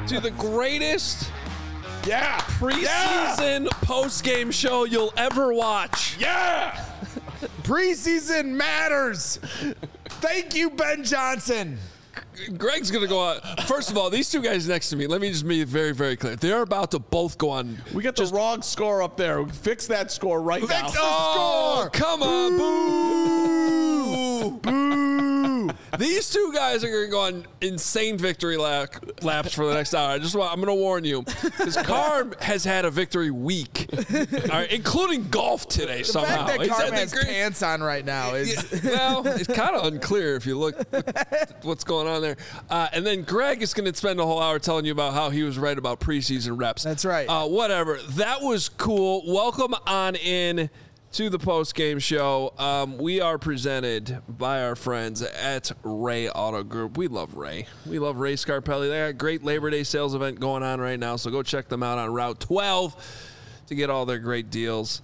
to the greatest Yeah. preseason post-game show you'll ever watch. Yeah. Preseason matters. Thank you, Ben Johnson. Greg's going to go out. First of all, these two guys next to me, let me just be very, very clear. They're about to both go on. We got the wrong score up there. Fix that score right now. Fix the score. Come on. Boo. Boo. These two guys are going to go on insane victory laps for the next hour. I'm going to warn you, because Carm has had a victory week, all right, including golf today somehow. The fact that Carm has pants on right now is... Well, it's kind of unclear if you look at what's going on there. And then Greg is going to spend the whole hour telling you about how he was right about preseason reps. That's right. Whatever. That was cool. Welcome on in to the post-game show. We are presented by our friends at Ray Auto Group. We love Ray. We love Ray Scarpelli. They got a great Labor Day sales event going on right now, so go check them out on Route 12 to get all their great deals.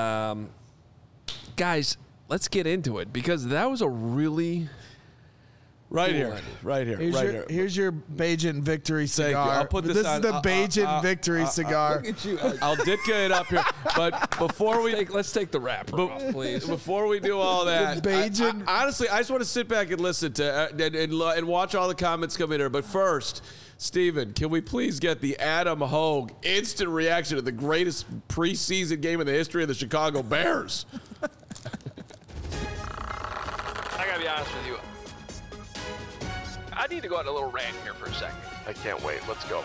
Guys, let's get into it, because that was a really... Right here. Here's your Bajan victory cigar. I'll put this on. This is the Bajan victory cigar. Look at you. I'll dick it up here. But before we... Let's take the wrapper off, please. Before we do all that, Bajan. Honestly, I just want to sit back and listen to and watch all the comments come in here. But first, Steven, can we please get the Adam Hogue instant reaction to the greatest preseason game in the history of the Chicago Bears? I gotta be honest with you. I need to go on a little rant here for a second. I can't wait. Let's go.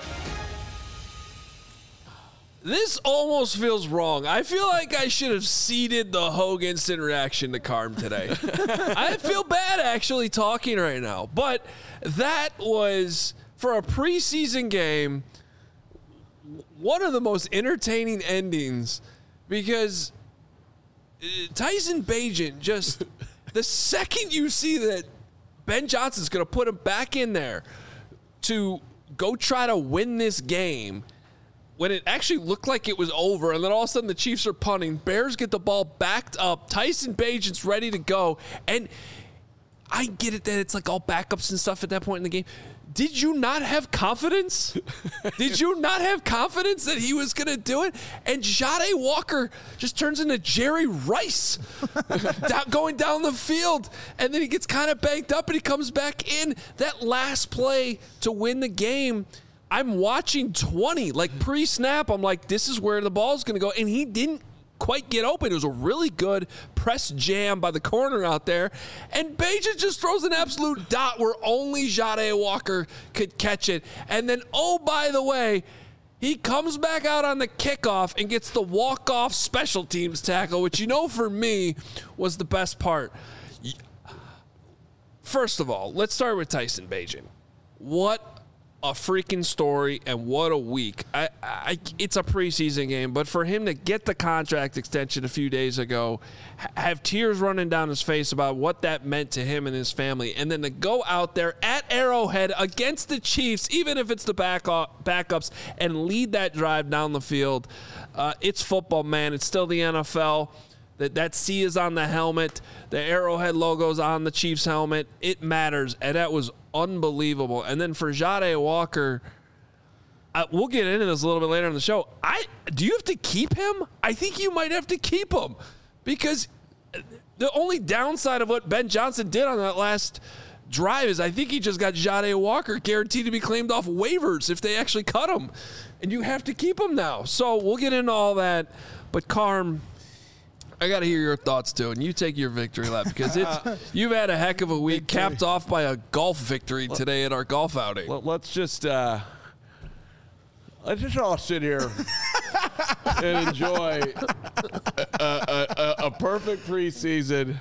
This almost feels wrong. I feel like I should have ceded the Hogue instant reaction to Carm today. I feel bad actually talking right now. But that was, for a preseason game, one of the most entertaining endings, because Tyson Bagent, just the second you see that Ben Johnson's going to put him back in there to go try to win this game, when it actually looked like it was over, and then all of a sudden the Chiefs are punting, Bears get the ball backed up, Tyson Bagent's ready to go, and I get it that it's like all backups and stuff at that point in the game. Did you not have confidence? Did you not have confidence that he was going to do it? And Jahdae Walker just turns into Jerry Rice going down the field. And then he gets kind of banked up and he comes back in. That last play to win the game, I'm watching 20. Like pre-snap, I'm like, this is where the ball's going to go. And he didn't quite get open. It was a really good press jam by the corner out there. And Bagent just throws an absolute dot where only Jahdae Walker could catch it. And then, oh, by the way, he comes back out on the kickoff and gets the walk-off special teams tackle, which, you know, for me was the best part. First of all, let's start with Tyson Bagent. What a freaking story, and what a week. It's a preseason game, but for him to get the contract extension a few days ago, have tears running down his face about what that meant to him and his family, and then to go out there at Arrowhead against the Chiefs, even if it's the backups, and lead that drive down the field. It's football, man. It's still the NFL. That C is on the helmet. The Arrowhead logo's on the Chiefs helmet. It matters, and that was unbelievable. And then for Jahdae Walker, we'll get into this a little bit later in the show. Do you have to keep him? I think you might have to keep him, because the only downside of what Ben Johnson did on that last drive is I think he just got Jahdae Walker guaranteed to be claimed off waivers if they actually cut him. And you have to keep him now. So we'll get into all that. But Carm, I got to hear your thoughts, too, and you take your victory lap, because you've had a heck of a week, capped off by a golf victory today at our golf outing. Let's just all sit here and enjoy a perfect preseason.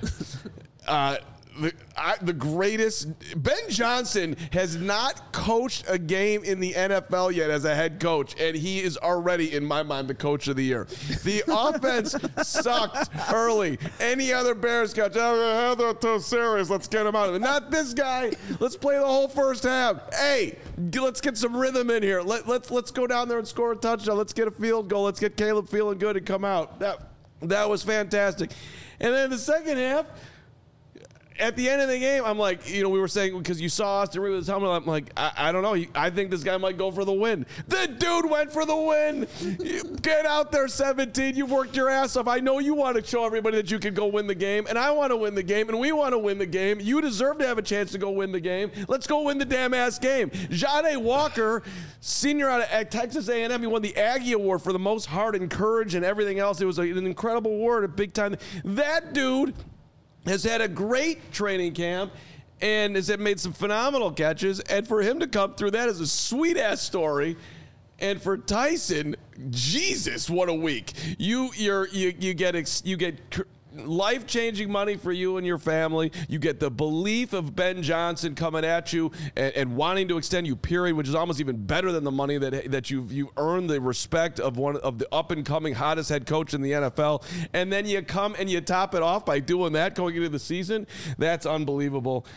The greatest. Ben Johnson has not coached a game in the NFL yet as a head coach, and he is already, in my mind, the coach of the year. The offense sucked early. Any other Bears coach, they're too serious, let's get him out of it. Not this guy. Let's play the whole first half. Hey, let's get some rhythm in here. Let's go down there and score a touchdown. Let's get a field goal. Let's get Caleb feeling good and come out. That was fantastic. And then the second half, at the end of the game, I'm like, we were saying, because you saw Austin Reed with his helmet, I'm like, I don't know. I think this guy might go for the win. The dude went for the win. Get out there, 17. You've worked your ass off. I know you want to show everybody that you can go win the game, and I want to win the game, and we want to win the game. You deserve to have a chance to go win the game. Let's go win the damn ass game. Ja'Day Walker, senior out of Texas A&M, he won the Aggie Award for the most heart and courage and everything else. It was an incredible award, a big time. That dude has had a great training camp and has made some phenomenal catches. And for him to come through that is a sweet-ass story. And for Tyson, Jesus, what a week. You get life-changing money for you and your family. You get the belief of Ben Johnson coming at you and wanting to extend you, period, which is almost even better than the money that you've earned the respect of one of the up-and-coming hottest head coach in the NFL. And then you come and you top it off by doing that going into the season. That's unbelievable.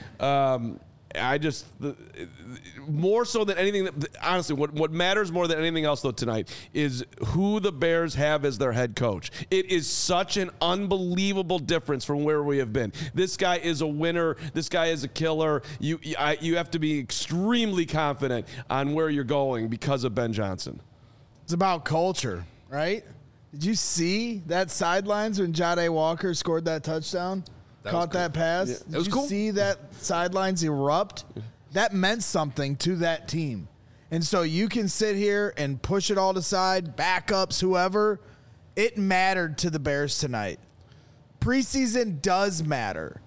More so than anything, honestly, what matters more than anything else, though, tonight is who the Bears have as their head coach. It is such an unbelievable difference from where we have been. This guy is a winner. This guy is a killer. You have to be extremely confident on where you're going because of Ben Johnson. It's about culture, right? Did you see that sidelines when Ja'Day Walker scored that touchdown? Caught that pass. Yeah. Did you see that sidelines erupt? That meant something to that team. And so you can sit here and push it all aside, backups, whoever. It mattered to the Bears tonight. Preseason does matter.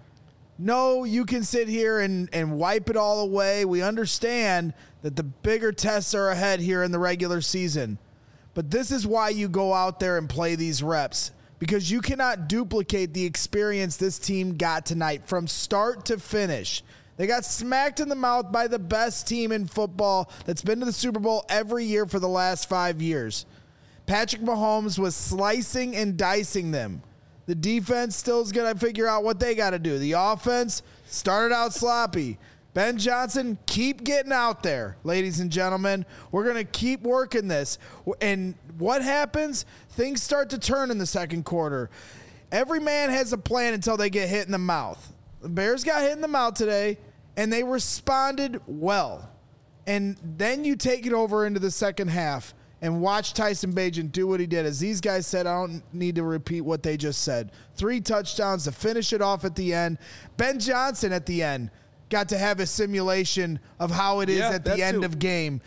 No, you can sit here and wipe it all away. We understand that the bigger tests are ahead here in the regular season. But this is why you go out there and play these reps. Because you cannot duplicate the experience this team got tonight from start to finish. They got smacked in the mouth by the best team in football that's been to the Super Bowl every year for the last 5 years. Patrick Mahomes was slicing and dicing them. The defense still is going to figure out what they got to do. The offense started out sloppy. Ben Johnson, keep getting out there, ladies and gentlemen. We're going to keep working this. And what happens? Things start to turn in the second quarter. Every man has a plan until they get hit in the mouth. The Bears got hit in the mouth today, and they responded well. And then you take it over into the second half and watch Tyson Bagent do what he did. As these guys said, I don't need to repeat what they just said. 3 touchdowns to finish it off at the end. Ben Johnson at the end got to have a simulation of how it is at the end of game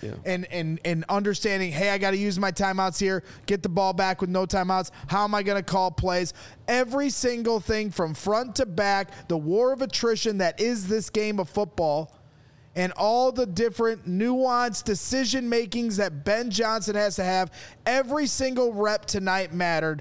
and understanding, hey, I got to use my timeouts here, get the ball back with no timeouts. How am I going to call plays? Every single thing from front to back, the war of attrition that is this game of football, and all the different nuanced decision makings that Ben Johnson has to have. Every single rep tonight mattered.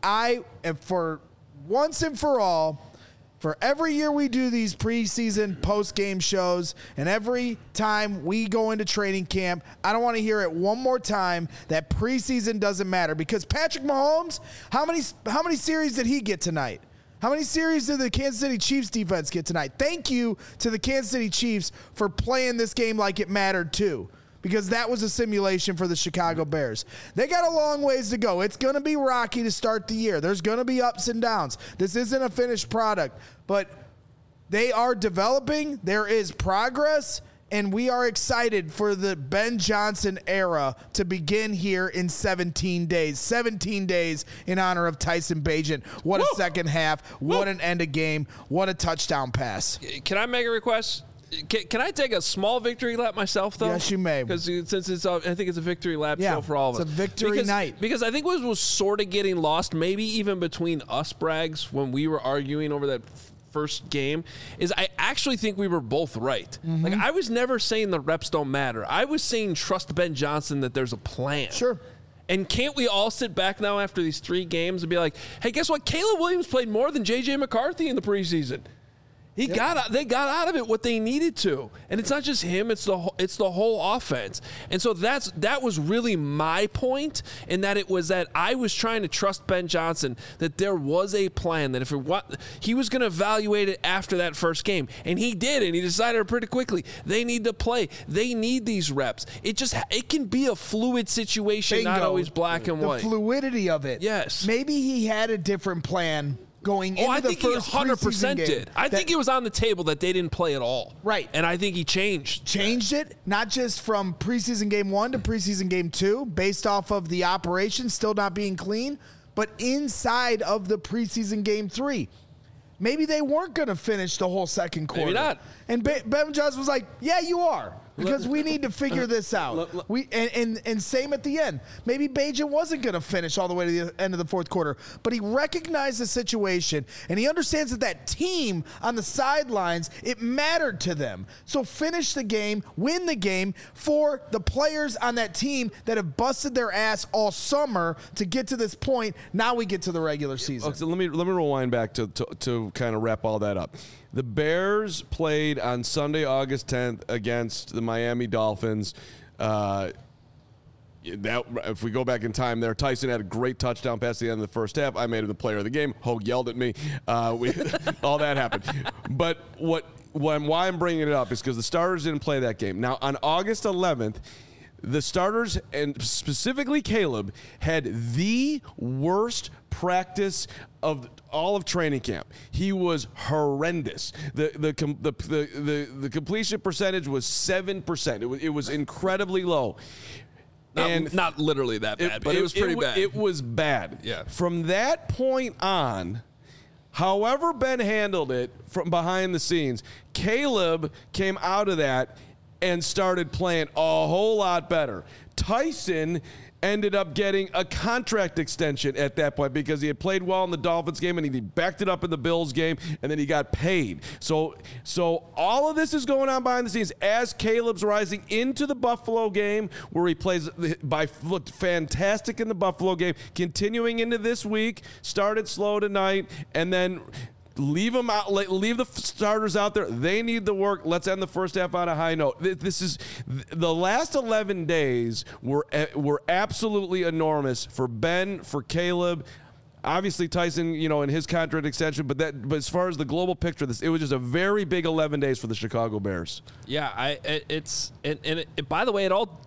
For once and for all, for every year we do these preseason post-game shows and every time we go into training camp, I don't want to hear it one more time that preseason doesn't matter. Because Patrick Mahomes, how many series did he get tonight? How many series did the Kansas City Chiefs defense get tonight? Thank you to the Kansas City Chiefs for playing this game like it mattered too. Because that was a simulation for the Chicago Bears. They got a long ways to go. It's going to be rocky to start the year. There's going to be ups and downs. This isn't a finished product, but they are developing. There is progress, and we are excited for the Ben Johnson era to begin here in 17 days. 17 days in honor of Tyson Bagent. What a second half. What an end of game. What a touchdown pass. Can I make a request? Can I take a small victory lap myself, though? Yes, you may. Because since I think it's a victory lap show for all of us. It's a victory night. Because I think what was sort of getting lost, maybe even between us, Braggs, when we were arguing over that first game, is I actually think we were both right. Mm-hmm. Like, I was never saying the reps don't matter. I was saying trust Ben Johnson that there's a plan. Sure. And can't we all sit back now after these 3 games and be like, hey, guess what? Caleb Williams played more than J.J. McCarthy in the preseason. They got out of it what they needed to, and it's not just him; it's the whole offense. And so that was really my point, in that it was that I was trying to trust Ben Johnson that there was a plan, that he was going to evaluate it after that first game, and he did, and he decided pretty quickly they need to play, they need these reps. It can be a fluid situation, not always black and white. The fluidity of it. Yes, maybe he had a different plan going into I the think first he 100% preseason game. did. I think it was on the table that they didn't play at all. Right. And I think he changed it, not just from preseason game 1 to preseason game 2, based off of the operation still not being clean, but inside of the preseason game 3. Maybe they weren't going to finish the whole second quarter. Maybe not. And Ben Johnson was like, yeah, you are. Because we need to figure this out. And same at the end. Maybe Bagent wasn't going to finish all the way to the end of the fourth quarter, but he recognized the situation, and he understands that team on the sidelines, it mattered to them. So finish the game, win the game for the players on that team that have busted their ass all summer to get to this point. Now we get to the regular season. Okay, so let me rewind back to kind of wrap all that up. The Bears played on Sunday, August 10th against the Miami Dolphins. If we go back in time there, Tyson had a great touchdown pass at the end of the first half. I made him the player of the game. Hogue yelled at me. All that happened. But why I'm bringing it up is because the starters didn't play that game. Now, on August 11th, the starters, and specifically Caleb, had the worst practice of all of training camp. He was horrendous. The completion percentage was 7%. It was incredibly low. Not literally that bad, but it was pretty bad. It was bad. Yeah. From that point on, however Ben handled it from behind the scenes, Caleb came out of that and started playing a whole lot better. Tyson ended up getting a contract extension at that point because he had played well in the Dolphins game and he backed it up in the Bills game, and then he got paid. So all of this is going on behind the scenes as Caleb's rising into the Buffalo game, where he looked fantastic in the Buffalo game, continuing into this week, started slow tonight, and then leave them out. Leave the starters out there. They need the work. Let's end the first half on a high note. This is the last 11 days were absolutely enormous for Ben, for Caleb. Obviously Tyson, in his contract extension, but as far as the global picture, it was just a very big 11 days for the Chicago Bears. Yeah, by the way, it all.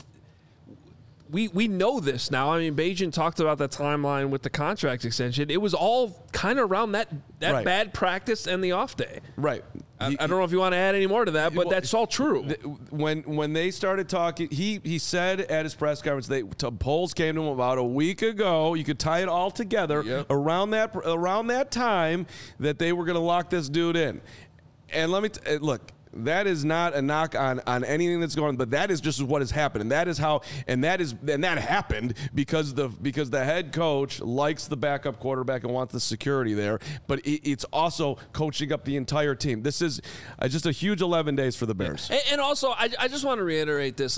We know this now. I mean, Bagent talked about that timeline with the contract extension. It was all kind of around that right. bad practice and the off day. Right. I don't know if you want to add any more to that, but that's all true. When they started talking, he said at his press conference, polls came to him about a week ago. You could tie it all together around that time that they were going to lock this dude in. And let me look. That is not a knock on anything that's going on, but that is just what has happened, and that is how, and that happened because the head coach likes the backup quarterback and wants the security there, but it's also coaching up the entire team. This is just a huge 11 days for the Bears. And also, I just want to reiterate this,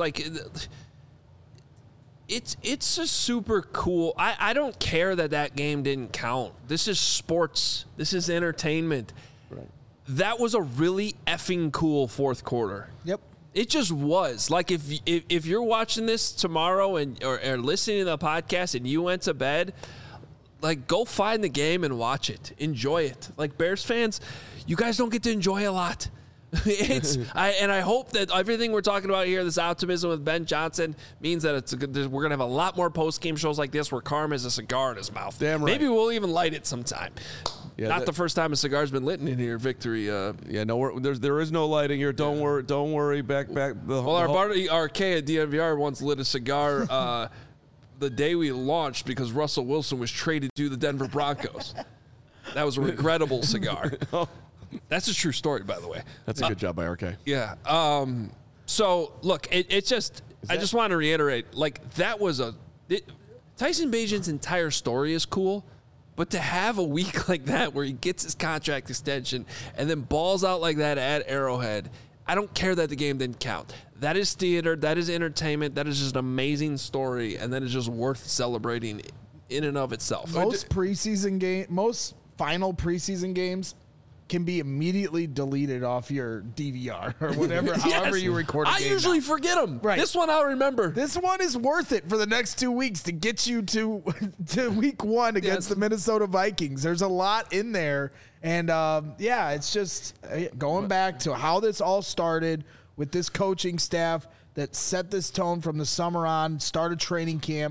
it's just super cool. I don't care that game didn't count. This is sports. This is entertainment. Right. That was a really effing cool fourth quarter. Yep. It just was. Like, if you're watching this tomorrow or listening to the podcast and you went to bed, go find the game and watch it. Enjoy it. Like, Bears fans, you guys don't get to enjoy a lot. I hope that everything we're talking about here, this optimism with Ben Johnson, means that we're gonna have a lot more post game shows like this where Carm has a cigar in his mouth. Damn right. Maybe we'll even light it sometime. Yeah, Not the first time a cigar's been lit in here, Victory. No, there is no lighting here. Don't worry. Back. Our K at DNVR once lit a cigar the day we launched because Russell Wilson was traded to the Denver Broncos. That was a regrettable cigar. That's a true story, by the way. That's a good job by RK. Yeah. So look, I just want to reiterate, that was Tyson Bagent's entire story is cool. But to have a week like that where he gets his contract extension and then balls out like that at Arrowhead, I don't care that the game didn't count. That is theater. That is entertainment. That is just an amazing story, and that is just worth celebrating in and of itself. Most final preseason games can be immediately deleted off your DVR or whatever, however you record a game. I usually forget them. Right. This one I'll remember. This one is worth it for the next 2 weeks to get you to week one against the Minnesota Vikings. There's a lot in there. And, it's just going back to how this all started with this coaching staff that set this tone from the summer on, started training camp,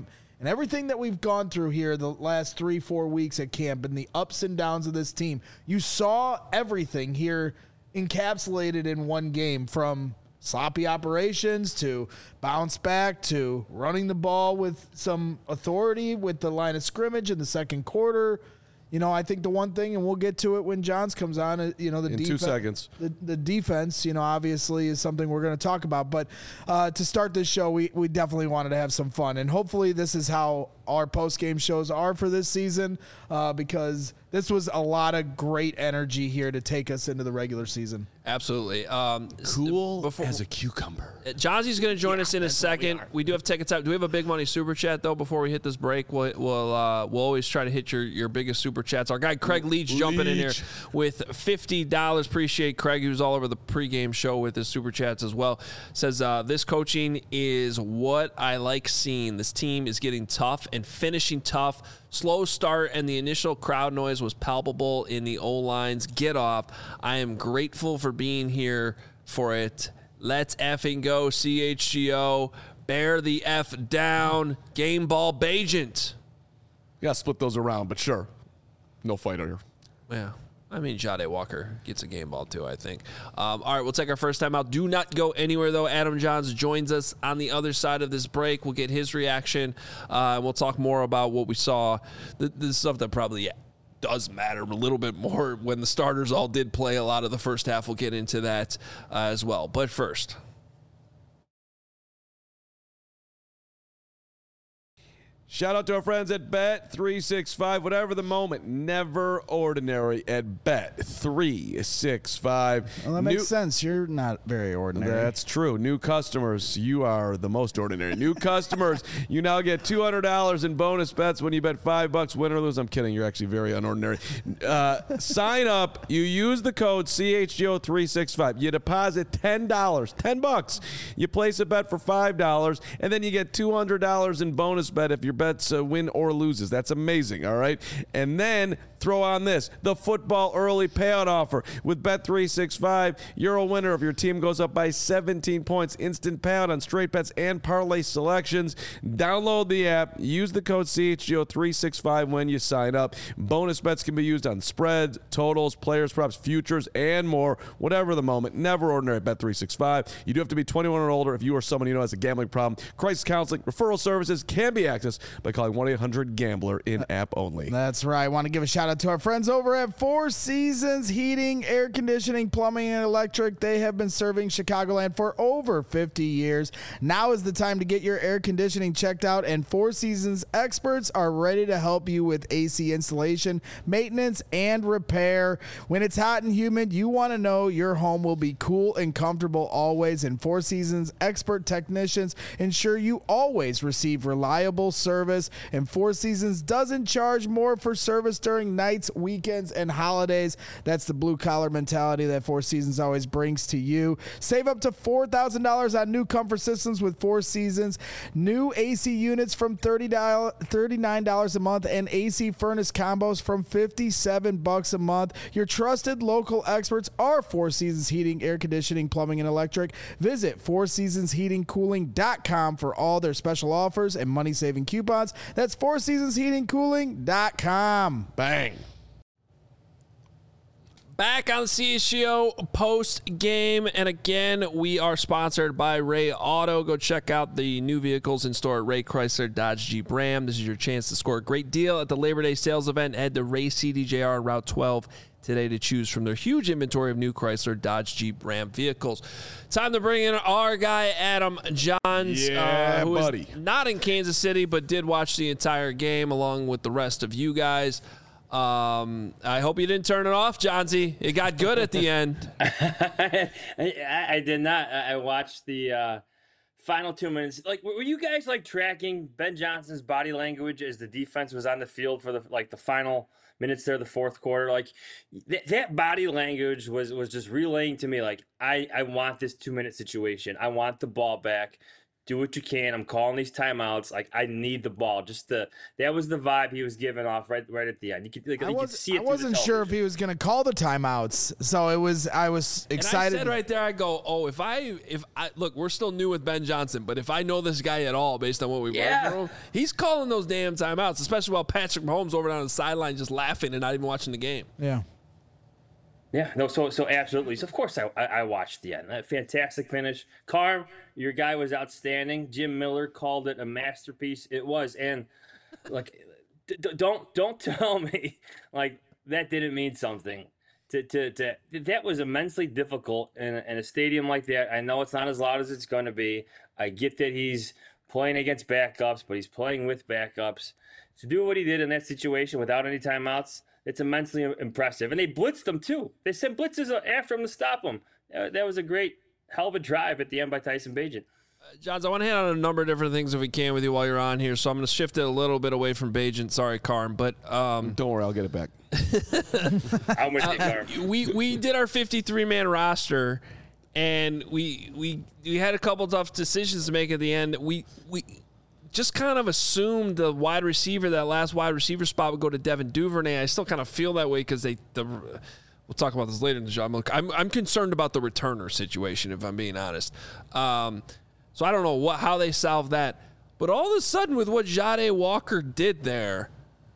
And everything that we've gone through here the last 3-4 weeks at camp and the ups and downs of this team, you saw everything here encapsulated in one game, from sloppy operations to bounce back to running the ball with some authority with the line of scrimmage in the second quarter. I think the one thing, and we'll get to it when Johns comes on, the in 2 seconds. The defense, obviously is something we're going to talk about. But to start this show, we definitely wanted to have some fun. And hopefully this is how our post-game shows are for this season, because this was a lot of great energy here to take us into the regular season. Absolutely. Cool as a cucumber. Johnsie's going to join us in a second. We do have to take a time. Do we have a big money super chat, though, before we hit this break? We'll always try to hit your biggest super chats. Our guy Craig Leach jumping in here with $50. Appreciate Craig. He was all over the pregame show with his super chats as well. Says, this coaching is what I like seeing. This team is getting tough and finishing tough. Slow start, and the initial crowd noise was palpable in the O-lines. Get off. I am grateful for being here for it. Let's effing go, CHGO. Bear the F down. Game ball Bajent. You got to split those around, but sure. No fighter here. Yeah. I mean, Jade Walker gets a game ball, too, I think. All right, we'll take our first time out. Do not go anywhere, though. Adam Johns joins us on the other side of this break. We'll get his reaction. We'll talk more about what we saw, the stuff that probably does matter a little bit more when the starters all did play a lot of the first half. We'll get into that as well. But first, shout out to our friends at Bet365. Whatever the moment, never ordinary at Bet365. Well, that makes sense. You're not very ordinary. That's true. New customers, you are the most ordinary. New customers, you now get $200 in bonus bets when you bet $5. Win or lose. I'm kidding. You're actually very unordinary. Sign up. You use the code CHGO365. You deposit $10, $10. You place a bet for $5, and then you get $200 in bonus bet if your bets win or loses. That's amazing, all right? And then throw on this, the football early payout offer. With Bet365, you're a winner if your team goes up by 17 points. Instant payout on straight bets and parlay selections. Download the app. Use the code CHGO365 when you sign up. Bonus bets can be used on spreads, totals, players, props, futures, and more. Whatever the moment, never ordinary at Bet365. You do have to be 21 or older if you or someone you know has a gambling problem. Crisis counseling, referral services can be accessed by calling 1-800-GAMBLER in-app only. That's right. I want to give a shout out to our friends over at Four Seasons Heating, Air Conditioning, Plumbing, and Electric. They have been serving Chicagoland for over 50 years. Now is the time to get your air conditioning checked out, and Four Seasons experts are ready to help you with AC installation, maintenance, and repair. When it's hot and humid, you want to know your home will be cool and comfortable always, and Four Seasons expert technicians ensure you always receive reliable service, and Four Seasons doesn't charge more for service during nights, weekends, and holidays. That's the blue-collar mentality that Four Seasons always brings to you. Save up to $4,000 on new comfort systems with Four Seasons. New AC units from $39 a month, and AC furnace combos from $57 a month. Your trusted local experts are Four Seasons Heating, Air Conditioning, Plumbing, and Electric. Visit fourseasonsheatingcooling.com for all their special offers and money-saving coupons. That's fourseasonsheatingcooling.com. Bang. back on the CHGO post game, and again, we are sponsored by Ray Auto. Go check out the new vehicles in store at Ray Chrysler Dodge Jeep Ram. This is your chance to score a great deal at the Labor Day sales event. Head to Ray CDJR on Route 12 today to choose from their huge inventory of new Chrysler Dodge Jeep Ram vehicles. Time to bring in our guy Adam Johns, who is not in Kansas City but did watch the entire game along with the rest of you guys. I hope you didn't turn it off, Johnsy. It got good at the end. I did not. I watched the final 2 minutes. Like, were you guys like tracking Ben Johnson's body language as the defense was on the field for the final minutes there, the fourth quarter? Like that body language was just relaying to me, like, I want this 2 minute situation. I want the ball back. do what you can. I'm calling these timeouts. Like, I need the ball. That was the vibe he was giving off right at the end. You could see it. I wasn't sure if he was going to call the timeouts, so I was excited. And I said right there, I go, oh, if I look, we're still new with Ben Johnson, but if I know this guy at all based on what we've learned from him, he's calling those damn timeouts, especially while Patrick Mahomes over down the sideline just laughing and not even watching the game. Yeah. Yeah, no, so absolutely. So of course I watched the end. A fantastic finish. Carm, your guy was outstanding. Jim Miller called it a masterpiece. It was, and like, don't tell me like that didn't mean something. That was immensely difficult in a stadium like that. I know it's not as loud as it's going to be. I get that he's playing against backups, but he's playing with backups. To do what he did in that situation without any timeouts, it's immensely impressive. And they blitzed him, too. They sent blitzes after him to stop him. That was a great, hell of a drive at the end by Tyson Bagent. Johns, I want to hit on a number of different things if we can with you while you're on here, so I'm going to shift it a little bit away from Bagent. Sorry, Carm, but don't worry, I'll get it back. I'm with you, Carm. We did our 53-man roster, and we had a couple tough decisions to make at the end. We just kind of assumed the wide receiver, that last wide receiver spot would go to Devin Duvernay. I still kind of feel that way because we'll talk about this later in the show. I'm concerned about the returner situation, if I'm being honest. So I don't know how they solve that. But all of a sudden, with what Jahdae Walker did there,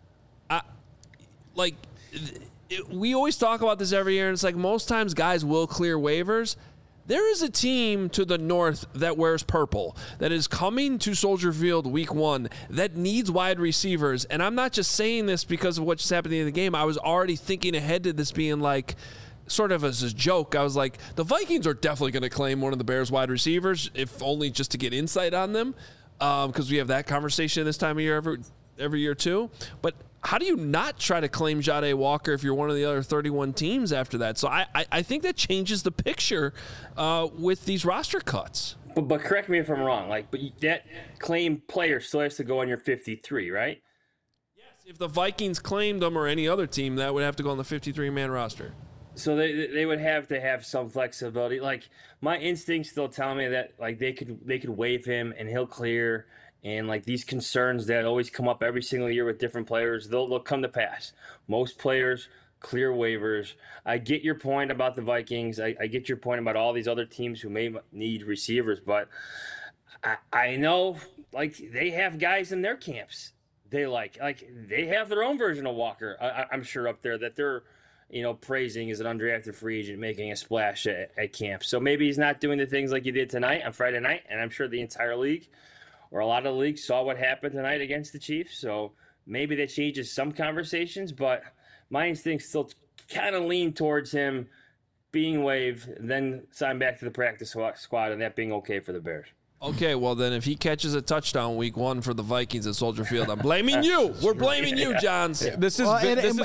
we always talk about this every year, and it's like most times guys will clear waivers. There is a team to the north that wears purple that is coming to Soldier Field week 1 that needs wide receivers. And I'm not just saying this because of what just happened in the game. I was already thinking ahead to this being like sort of as a joke. I was like, the Vikings are definitely going to claim one of the Bears wide receivers, if only just to get insight on them, because we have that conversation this time of year every year too. But how do you not try to claim Jahdae Walker if you're one of the other 31 teams after that? So I think that changes the picture with these roster cuts. But correct me if I'm wrong. But that claimed player still has to go on your 53, right? Yes. If the Vikings claimed them or any other team, that would have to go on the 53-man roster. So they would have to have some flexibility. Like, my instincts still tell me that like they could waive him and he'll clear. And like these concerns that always come up every single year with different players, they'll come to pass. Most players clear waivers. I get your point about the Vikings. I get your point about all these other teams who may need receivers, but I know like they have guys in their camps. They like they have their own version of Walker. I'm sure up there that they're praising as an undrafted free agent making a splash at camp. So maybe he's not doing the things like he did tonight on Friday night, and I'm sure the entire league or a lot of the league saw what happened tonight against the Chiefs. So maybe that changes some conversations, but my instincts still kind of lean towards him being waived, then signed back to the practice squad, and that being okay for the Bears. Okay, well then if he catches a touchdown week 1 for the Vikings at Soldier Field, I'm blaming you. We're blaming you, Johns. This is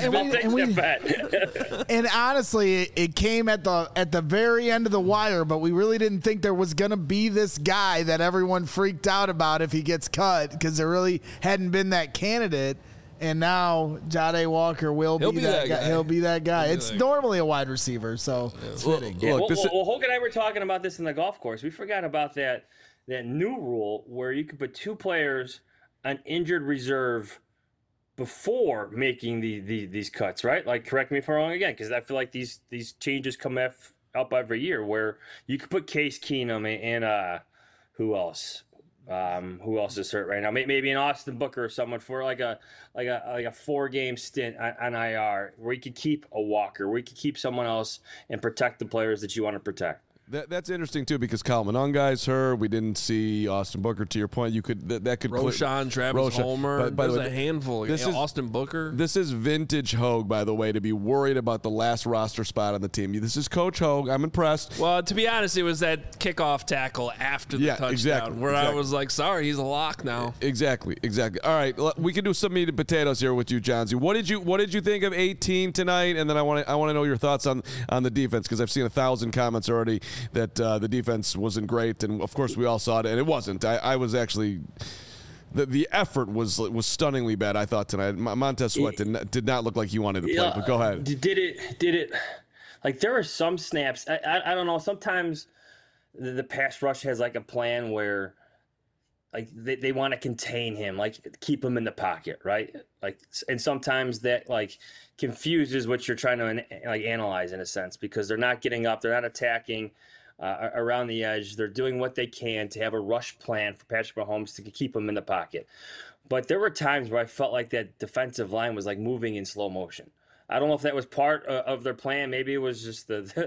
and honestly, it came at the very end of the wire, but we really didn't think there was going to be this guy that everyone freaked out about if he gets cut, because there really hadn't been that candidate. And now Jahdae Walker will be that guy. He'll be that guy. It's normally a wide receiver, so it's fitting. Yeah, well, Hoke and I were talking about this in the golf course. We forgot about that new rule where you could put 2 players on injured reserve before making these cuts, right? Like, correct me if I'm wrong again, because I feel like these changes come up every year where you could put Case Keenum and who else? Who else is hurt right now? Maybe an Austin Booker or someone for like a 4-game stint on IR, where you could keep a Walker, where you could keep someone else and protect the players that you want to protect. That's interesting too, because Kyle Monongai's hurt. We didn't see Austin Booker. To your point, you could that could Roshan, Travis Homer. By There's the way, a handful. This is Austin Booker. This is vintage Hogue, by the way, to be worried about the last roster spot on the team. This is Coach Hogue. I'm impressed. Well, to be honest, it was that kickoff tackle after the touchdown where I was like, sorry, he's a lock now. Exactly. All right, we can do some meat and potatoes here with you, Johnsy. What did you think of 18 tonight? And then I want to know your thoughts on the defense, because I've seen 1,000 comments already that the defense wasn't great, and of course we all saw it, and it wasn't. I was actually the effort was stunningly bad, I thought, tonight. Montez Sweat did not look like he wanted to play. But go ahead. Did it? Like, there are some snaps. I don't know. Sometimes the pass rush has like a plan where like they want to contain him, like keep him in the pocket, right? Like, and sometimes that like confuses what you're trying to like analyze in a sense, because they're not getting up, they're not attacking around the edge. They're doing what they can to have a rush plan for Patrick Mahomes to keep him in the pocket. But there were times where I felt like that defensive line was like moving in slow motion. I don't know if that was part of their plan. Maybe it was just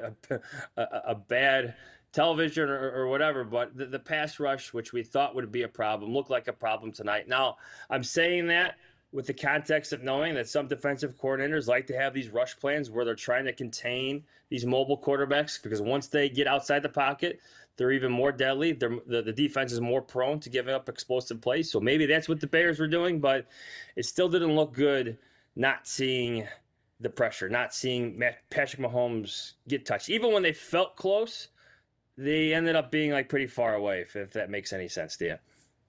a bad television or whatever, but the pass rush, which we thought would be a problem, looked like a problem tonight. Now, I'm saying that with the context of knowing that some defensive coordinators like to have these rush plans where they're trying to contain these mobile quarterbacks, because once they get outside the pocket, they're even more deadly. The defense is more prone to giving up explosive plays. So maybe that's what the Bears were doing, but it still didn't look good not seeing the pressure, not seeing Patrick Mahomes get touched. Even when they felt close, they ended up being like pretty far away, if that makes any sense to you.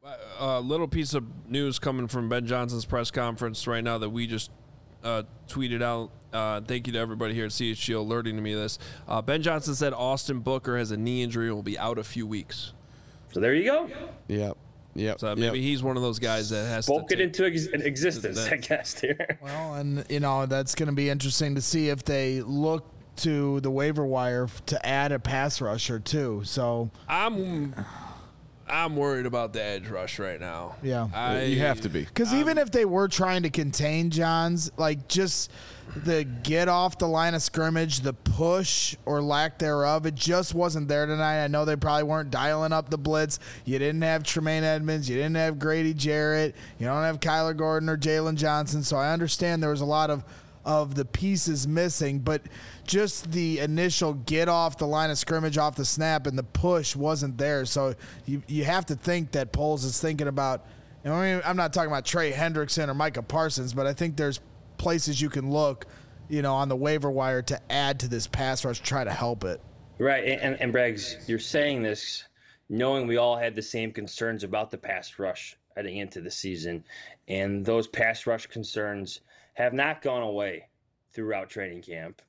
A little piece of news coming from Ben Johnson's press conference right now that we just tweeted out. Thank you to everybody here at CHGO alerting to me this. Ben Johnson said Austin Booker has a knee injury and will be out a few weeks. So there you go. Yep. So maybe he's one of those guys that has spoke to it into existence, I guess. Here. Well, and that's going to be interesting to see if they look to the waiver wire to add a pass rusher too. So I'm worried about the edge rush right now. Yeah, you have to be, because even if they were trying to contain Johns, like just the get off the line of scrimmage, the push or lack thereof, it just wasn't there tonight. I know they probably weren't dialing up the blitz. You didn't have Tremaine Edmonds. You didn't have Grady Jarrett. You don't have Kyler Gordon or Jalen Johnson. So I understand there was a lot of the pieces missing, but just the initial get off the line of scrimmage off the snap and the push wasn't there. So you have to think that Poles is thinking about, I'm not talking about Trey Hendrickson or Micah Parsons, but I think there's places you can look, on the waiver wire to add to this pass rush, try to help it. Right. And Braggs, you're saying this knowing we all had the same concerns about the pass rush heading into the season, and those pass rush concerns have not gone away throughout training camp.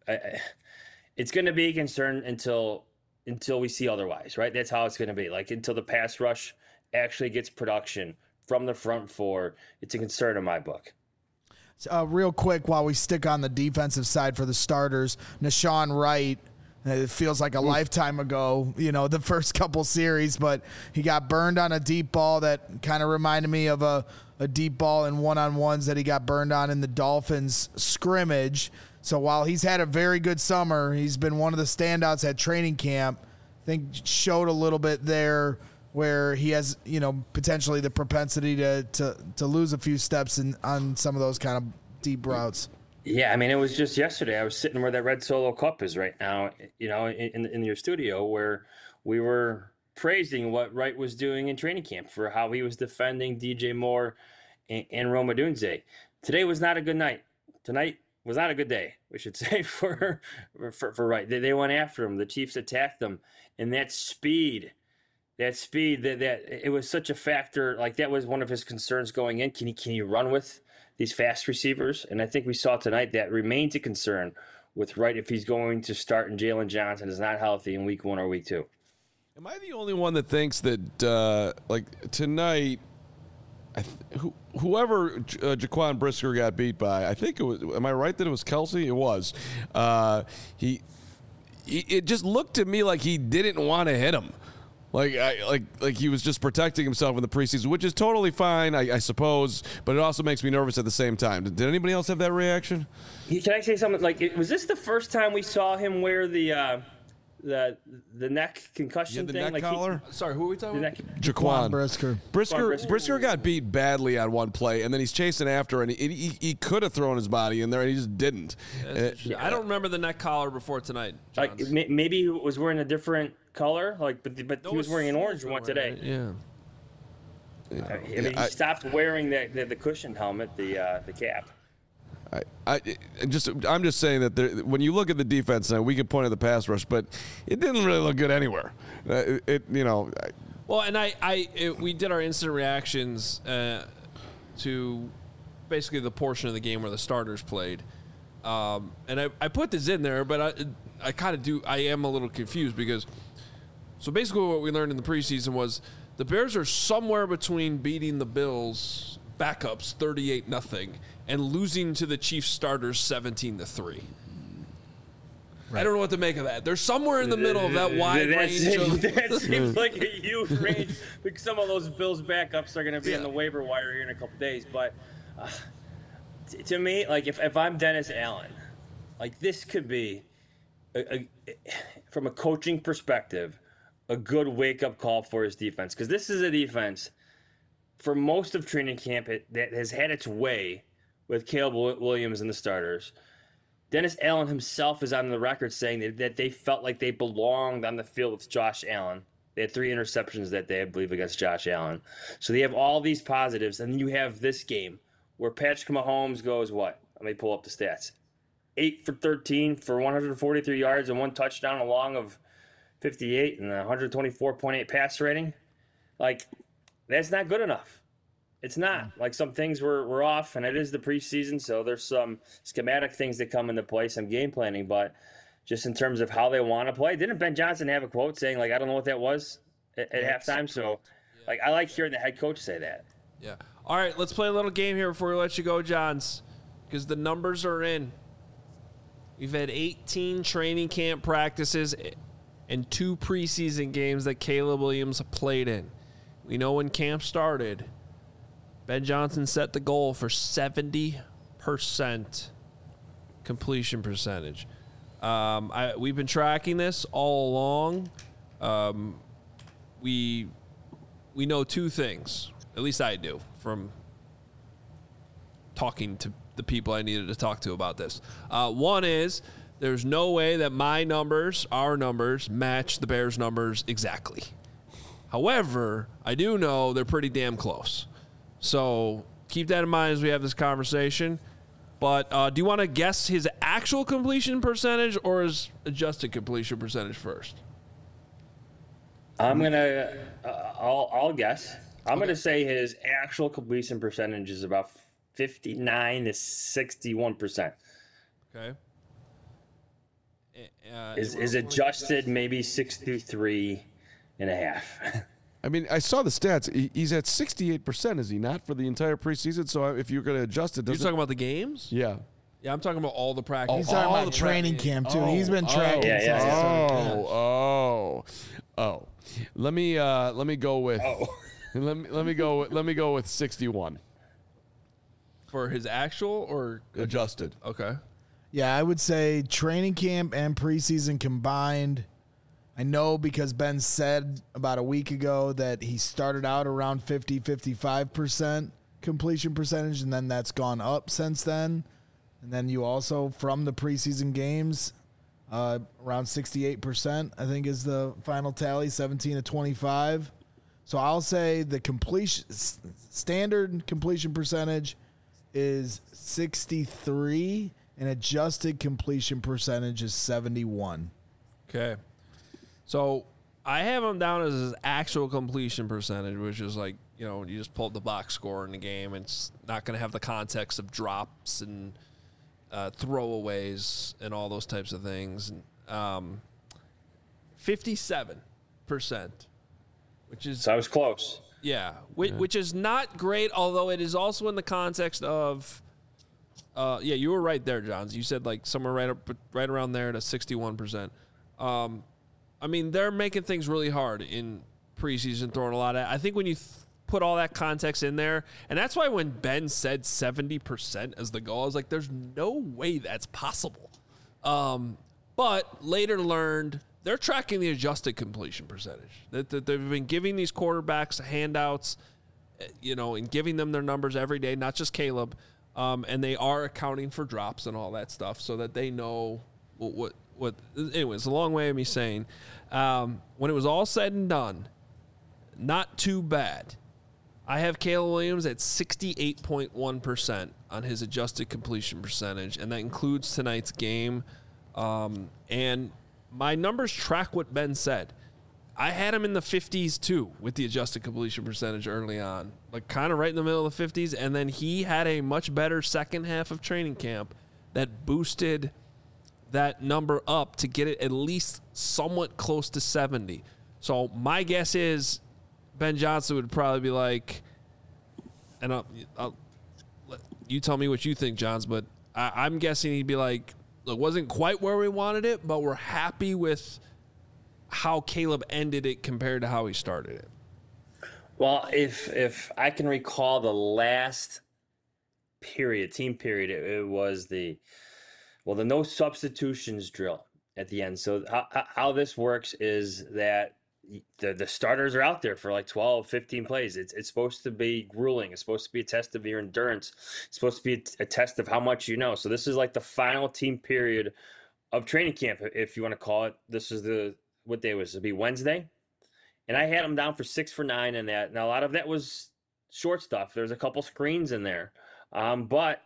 It's going to be a concern until we see otherwise, right? That's how it's going to be. Like until the pass rush actually gets production from the front four, it's a concern in my book. Real quick, while we stick on the defensive side for the starters, Nashawn Wright, it feels like a lifetime ago, the first couple series, but he got burned on a deep ball that kind of reminded me of a deep ball in one-on-ones that he got burned on in the Dolphins scrimmage. So while he's had a very good summer, he's been one of the standouts at training camp. I think showed a little bit there where he has, potentially the propensity to lose a few steps on some of those kind of deep routes. Yeah, I mean, it was just yesterday. I was sitting where that red Solo Cup is right now, in your studio, where we were praising what Wright was doing in training camp for how he was defending DJ Moore and Rome Odunze. Today was not a good night. Tonight was not a good day, we should say, for Wright. They went after him. The Chiefs attacked them, and that speed that it was such a factor. Like that was one of his concerns going in. Can he run with these fast receivers? And I think we saw tonight that remains a concern with Wright if he's going to start and Jalen Johnson is not healthy in week 1 or week 2. Am I the only one that thinks that tonight, whoever Jaquan Brisker got beat by, I think it was. Am I right that it was Kelsey? It was. It just looked to me like he didn't want to hit him. Like he was just protecting himself in the preseason, which is totally fine, I suppose, but it also makes me nervous at the same time. Did anybody else have that reaction? Can I say something? Was this the first time we saw him wear the neck concussion thing? Neck collar? Sorry, who are we talking about? Jaquan Brisker. Brisker got beat badly on one play, and then he's chasing after, and he could have thrown his body in there, and he just didn't. I don't remember the neck collar before tonight. Like maybe he was wearing a different color, but he was wearing an orange one today. Yeah. He stopped wearing the cushioned helmet, the cap. I'm just saying that when you look at the defense now, we can point at the pass rush, but it didn't really look good anywhere. Well, and we did our instant reactions to basically the portion of the game where the starters played, and I put this in there, but I kind of I am a little confused because so basically what we learned in the preseason was The Bears are somewhere between beating the Bills backups 38-0 and losing to the Chiefs starters 17-3. I don't know what to make of that. They're somewhere in the middle of that wide range. That seems like a huge range because some of those Bills backups are going to be on the waiver wire here in a couple days. But to me, like if I'm Dennis Allen, like this could be, from a coaching perspective, a good wake-up call for his defense. Because this is a defense, for most of training camp, that has had its way with Caleb Williams and the starters. Dennis Allen himself is on the record saying that they felt like they belonged on the field with Josh Allen. They had 3 interceptions that day, I believe, against Josh Allen. So they have all these positives. And then you have this game where Patrick Mahomes goes, what? Let me pull up the stats. 8 for 13 for 143 yards and 1 touchdown, along of 58 and 124.8 pass rating. Like, that's not good enough. It's not. Like, some things were off, and it is the preseason, so there's some schematic things that come into play, some game planning, but just in terms of how they want to play. Didn't Ben Johnson have a quote saying, like, I don't know what that was at halftime? So, like, I like hearing the head coach say that. Yeah. All right, let's play a little game here before we let you go, Johns, because the numbers are in. We've had 18 training camp practices and 2 preseason games that Caleb Williams played in. We know when camp started, Ben Johnson set the goal for 70% completion percentage. We've been tracking this all along. We know 2 things, at least I do, from talking to the people I needed to talk to about this. One is there's no way that my numbers, our numbers, match the Bears' numbers exactly. However, I do know they're pretty damn close. So keep that in mind as we have this conversation. But do you want to guess his actual completion percentage or his adjusted completion percentage first? I'm gonna. I'll guess. I'm gonna say his actual completion percentage is about 59 to 61%. Okay. Is adjusted maybe 63.5. I mean, I saw the stats. He's at 68%, is he not, for the entire preseason? So if you're going to adjust it, You're talking about the games? Yeah. Yeah, I'm talking about all the practice. He's talking about training camp, too. He's been tracking. Let me go with. Let me go with 61 for his actual or adjusted. Okay. Yeah, I would say training camp and preseason combined. I know because Ben said about a week ago that he started out around 55% completion percentage, and then that's gone up since then. And then you also, from the preseason games, around 68%, I think is the final tally, 17 to 25. So I'll say the standard completion percentage is 63, and adjusted completion percentage is 71. Okay. So I have him down as his actual completion percentage, which is like, you just pull up the box score in the game. It's not going to have the context of drops and throwaways and all those types of things. 57%, which is... So I was close. Yeah, which is not great, although it is also in the context of... you were right there, Johns. You said like somewhere right around there to 61%. I mean, they're making things really hard in preseason, throwing a lot at. I think when you put all that context in there, and that's why when Ben said 70% as the goal, I was like, there's no way that's possible. But later learned they're tracking the adjusted completion percentage. That they've been giving these quarterbacks handouts, and giving them their numbers every day, not just Caleb. And they are accounting for drops and all that stuff so that they know what anyways, a long way of me saying, when it was all said and done, not too bad. I have Caleb Williams at 68.1% on his adjusted completion percentage, and that includes tonight's game. And my numbers track what Ben said. I had him in the 50s, too, with the adjusted completion percentage early on, like kind of right in the middle of the 50s. And then he had a much better second half of training camp that boosted that number up to get it at least somewhat close to 70. So my guess is Ben Johnson would probably be like, and I'll you tell me what you think, Johns, but I'm guessing he'd be like, it wasn't quite where we wanted it, but we're happy with how Caleb ended it compared to how he started it. Well, if I can recall the last team period, it was the no substitutions drill at the end. So how this works is that the starters are out there for like 12, 15 plays. It's supposed to be grueling. It's supposed to be a test of your endurance. It's supposed to be a test of how much you know. So this is like the final team period of training camp, if you want to call it. This is what day was it? It'd be Wednesday. And I had them down for 6 for 9 in that. Now, a lot of that was short stuff. There's a couple screens in there. But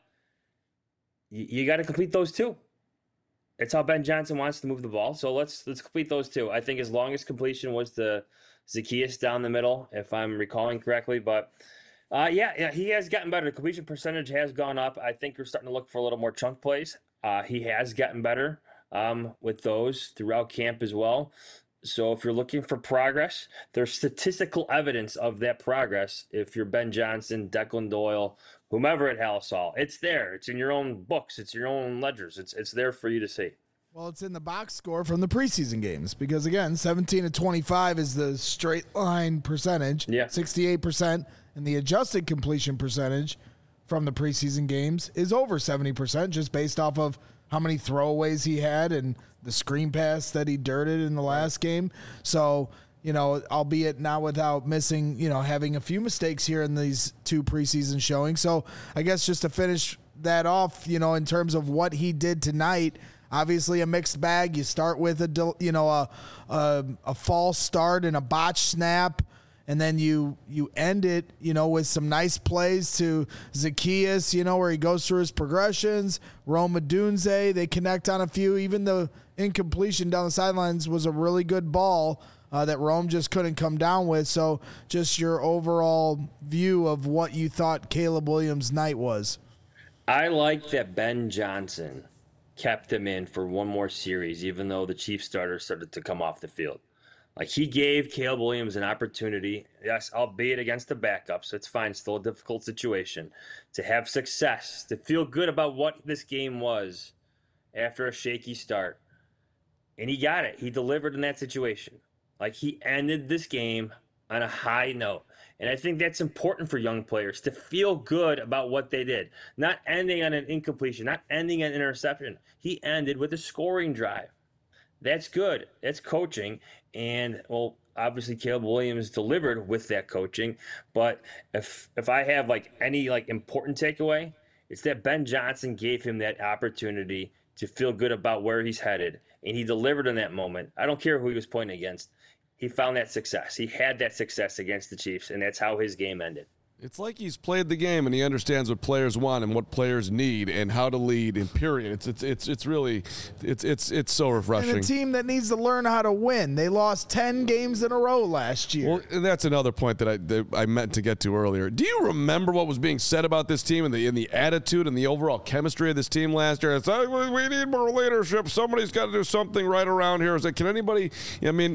you got to complete those too. It's how Ben Johnson wants to move the ball. So let's complete those two. I think his longest completion was the Zaccheaus down the middle, if I'm recalling correctly. But yeah, he has gotten better. The completion percentage has gone up. I think we're starting to look for a little more chunk plays. He has gotten better with those throughout camp as well. So if you're looking for progress, there's statistical evidence of that progress. If you're Ben Johnson, Declan Doyle, whomever at Halisol, it's there. It's in your own books. It's your own ledgers. It's there for you to see. Well, it's in the box score from the preseason games because, again, 17 to 25 is the straight line percentage, 68%, and the adjusted completion percentage from the preseason games is over 70% just based off of how many throwaways he had and the screen pass that he dirted in the last game. So, albeit not without missing, having a few mistakes here in these 2 preseason showings. So I guess just to finish that off, in terms of what he did tonight, obviously a mixed bag. You start with a false start and a botched snap. And then you end it, with some nice plays to Zaccheaus, where he goes through his progressions. Rome Odunze, they connect on a few. Even the incompletion down the sidelines was a really good ball that Rome just couldn't come down with. So just your overall view of what you thought Caleb Williams' night was. I like that Ben Johnson kept him in for one more series, even though the Chiefs starter started to come off the field. Like, he gave Caleb Williams an opportunity, yes, albeit against the backup, so it's fine, still a difficult situation, to have success, to feel good about what this game was after a shaky start. And he got it. He delivered in that situation. Like, he ended this game on a high note. And I think that's important for young players, to feel good about what they did. Not ending on an incompletion, not ending on an interception. He ended with a scoring drive. That's good. That's coaching. And, well, obviously Caleb Williams delivered with that coaching. But if I have, any important takeaway, it's that Ben Johnson gave him that opportunity to feel good about where he's headed. And he delivered in that moment. I don't care who he was pointing against. He found that success. He had that success against the Chiefs, and that's how his game ended. It's like he's played the game and he understands what players want and what players need and how to lead. And period. It's really so refreshing. And a team that needs to learn how to win. They lost 10 games in a row last year. Well, that's another point that I meant to get to earlier. Do you remember what was being said about this team and the attitude and the overall chemistry of this team last year? It's like, we need more leadership. Somebody's got to do something right around here. It's like, can anybody? I mean,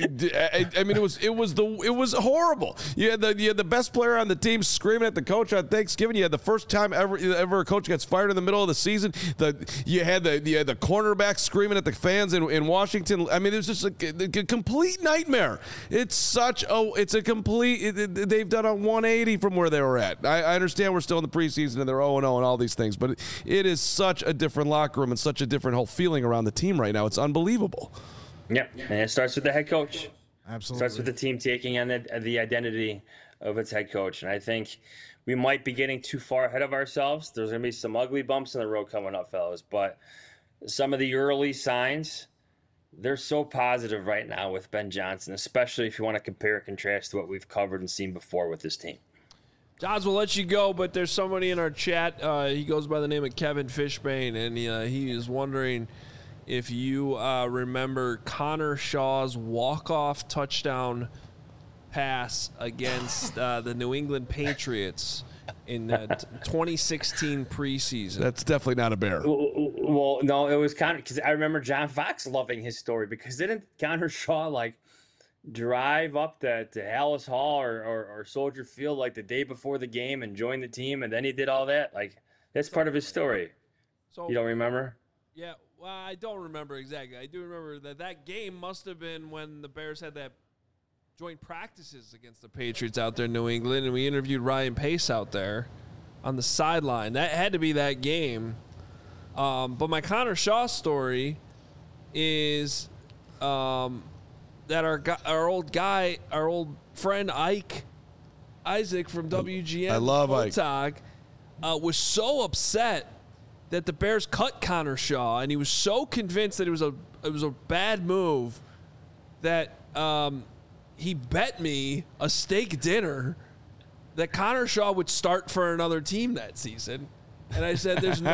it was horrible. You had the best player on the team screaming at the coach on Thanksgiving. You had the first time ever a coach gets fired in the middle of the season. You had the cornerback screaming at the fans in Washington. I mean, it was just a complete nightmare. It's a complete. They've done a 180 from where they were at. I understand we're still in the preseason and they're 0-0 and all these things, but it is such a different locker room and such a different whole feeling around the team right now. It's unbelievable. Yeah, and it starts with the head coach. Absolutely. Starts with the team taking on the identity of its head coach. And I think we might be getting too far ahead of ourselves. There's going to be some ugly bumps in the road coming up, fellas. But some of the early signs, they're so positive right now with Ben Johnson, especially if you want to compare and contrast to what we've covered and seen before with this team. Johns, we'll let you go, but there's somebody in our chat. He goes by the name of Kevin Fishbane, and he is wondering if you remember Connor Shaw's walk-off touchdown pass against the New England Patriots in 2016 preseason. That's definitely not a bear. Well, no, it was Connor, because I remember John Fox loving his story, because didn't Connor Shaw drive up to Hallis Hall or Soldier Field like the day before the game and join the team, and then he did all that? Like, that's part of his story. So You don't remember? yeah, well, I don't remember exactly. I do remember that game must have been when the Bears had that joint practices against the Patriots out there in New England, and we interviewed Ryan Pace out there on the sideline. That had to be that game. But my Connor Shaw story is that our old friend Isaac from WGN, I love Ike, was so upset that the Bears cut Connor Shaw, and he was so convinced that it was a bad move that he bet me a steak dinner that Connor Shaw would start for another team that season. And I said, there's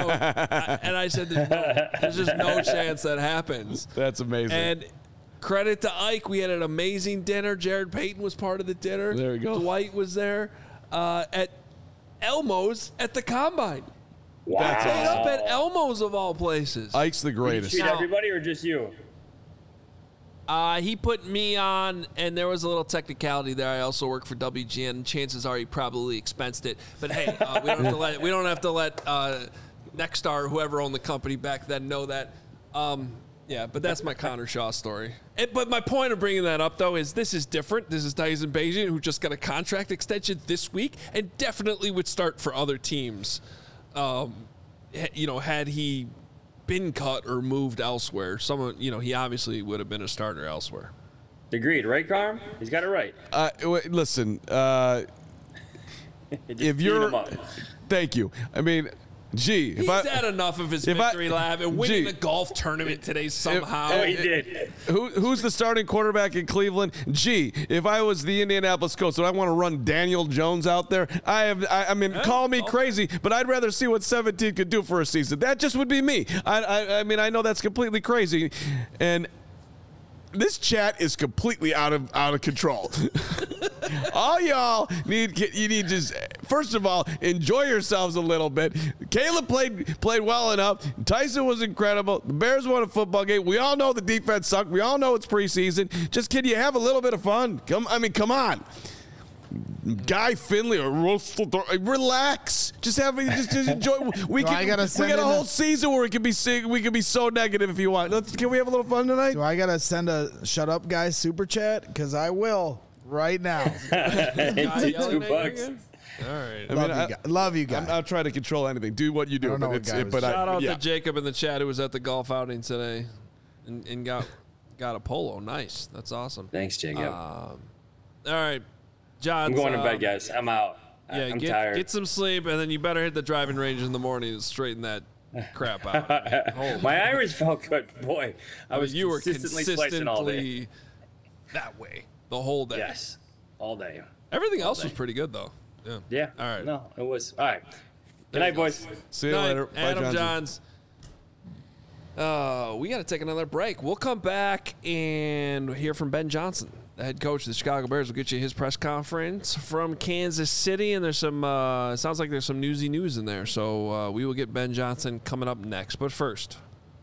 just no chance that happens. That's amazing. And credit to Ike, we had an amazing dinner. Jared Payton was part of the dinner. There we go. Dwight was there at Elmo's at the Combine. Wow. That's Stayed awesome. up at Elmo's of all places. Ike's the Did you greatest. treat everybody or just you? He put me on, and there was a little technicality there. I also work for WGN. Chances are he probably expensed it. But hey, we don't have to let Nexstar, whoever owned the company back then, know that. Yeah, but that's my Connor Shaw story. But my point of bringing that up, though, is this is different. This is Tyson Bagent, who just got a contract extension this week and definitely would start for other teams. Had he been cut or moved elsewhere, he obviously would have been a starter elsewhere. Agreed, right, Carm? He's got it right. Listen, Just if beat you're, him up. thank you. I mean, gee, He's had enough of his victory lap and winning the golf tournament today somehow. Oh, he did. Who's the starting quarterback in Cleveland? Gee, if I was the Indianapolis Colts, would I want to run Daniel Jones out there? I mean, call me crazy, but I'd rather see what 17 could do for a season. That just would be me. I mean, I know that's completely crazy, and this chat is completely out of control. All y'all need just, first of all, enjoy yourselves a little bit. Caleb played well enough. Tyson was incredible. The Bears won a football game. We all know the defense sucked. We all know it's preseason. Just can you have a little bit of fun? Come on. Guy Finley or relax. Just enjoy. We got a whole season where we can be so negative if you want. Can we have a little fun tonight? Do I gotta send a shut up guys super chat? Because I will right now. $2. All right. Love you guys. I'll try to control anything. Do what you do. I don't know what guy was- Shout out to Jacob in the chat who was at the golf outing today and got a polo. Nice. That's awesome. Thanks, Jacob. All right. John, I'm going to bed, guys. I'm out. I'm tired. Get some sleep, and then you better hit the driving range in the morning and straighten that crap out. My Irish felt good. Boy, You were consistently slicing all day. consistently that way the whole day. Yes, all day. Everything else was pretty good, though. Yeah. Yeah. All right. No, it was. All right. Good night, boys. See you Night, later. Bye, Adam Johnson. Johns. We got to take another break. We'll come back and hear from Ben Johnson, the head coach of the Chicago Bears. Will get you his press conference from Kansas City, and there's some sounds like there's some newsy news in there. So we will get Ben Johnson coming up next. But first,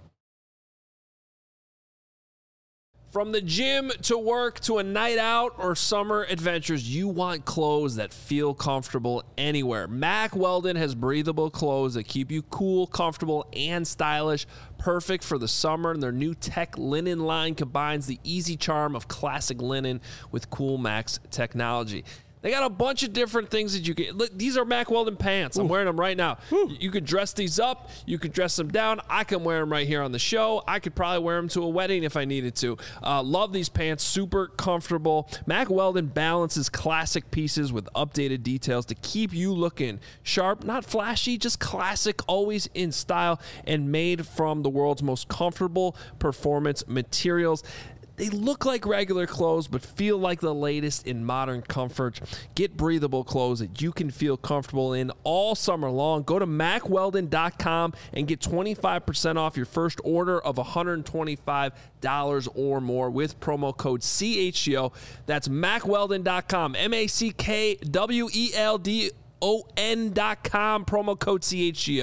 from the gym to work to a night out or summer adventures, you want clothes that feel comfortable anywhere. Mack Weldon has breathable clothes that keep you cool, comfortable, and stylish. Perfect for the summer, and their new tech linen line combines the easy charm of classic linen with Cool Max technology. They got a bunch of different things that you can. Look, these are Mack Weldon pants. I'm wearing them right now. You could dress these up. You could dress them down. I can wear them right here on the show. I could probably wear them to a wedding if I needed to. Love these pants. Super comfortable. Mack Weldon balances classic pieces with updated details to keep you looking sharp, not flashy, just classic, always in style, and made from the world's most comfortable performance materials. They look like regular clothes, but feel like the latest in modern comfort. Get breathable clothes that you can feel comfortable in all summer long. Go to MackWeldon.com and get 25% off your first order of $125 or more with promo code CHGO. That's MackWeldon.com, MackWeldon.com, promo code CHGO.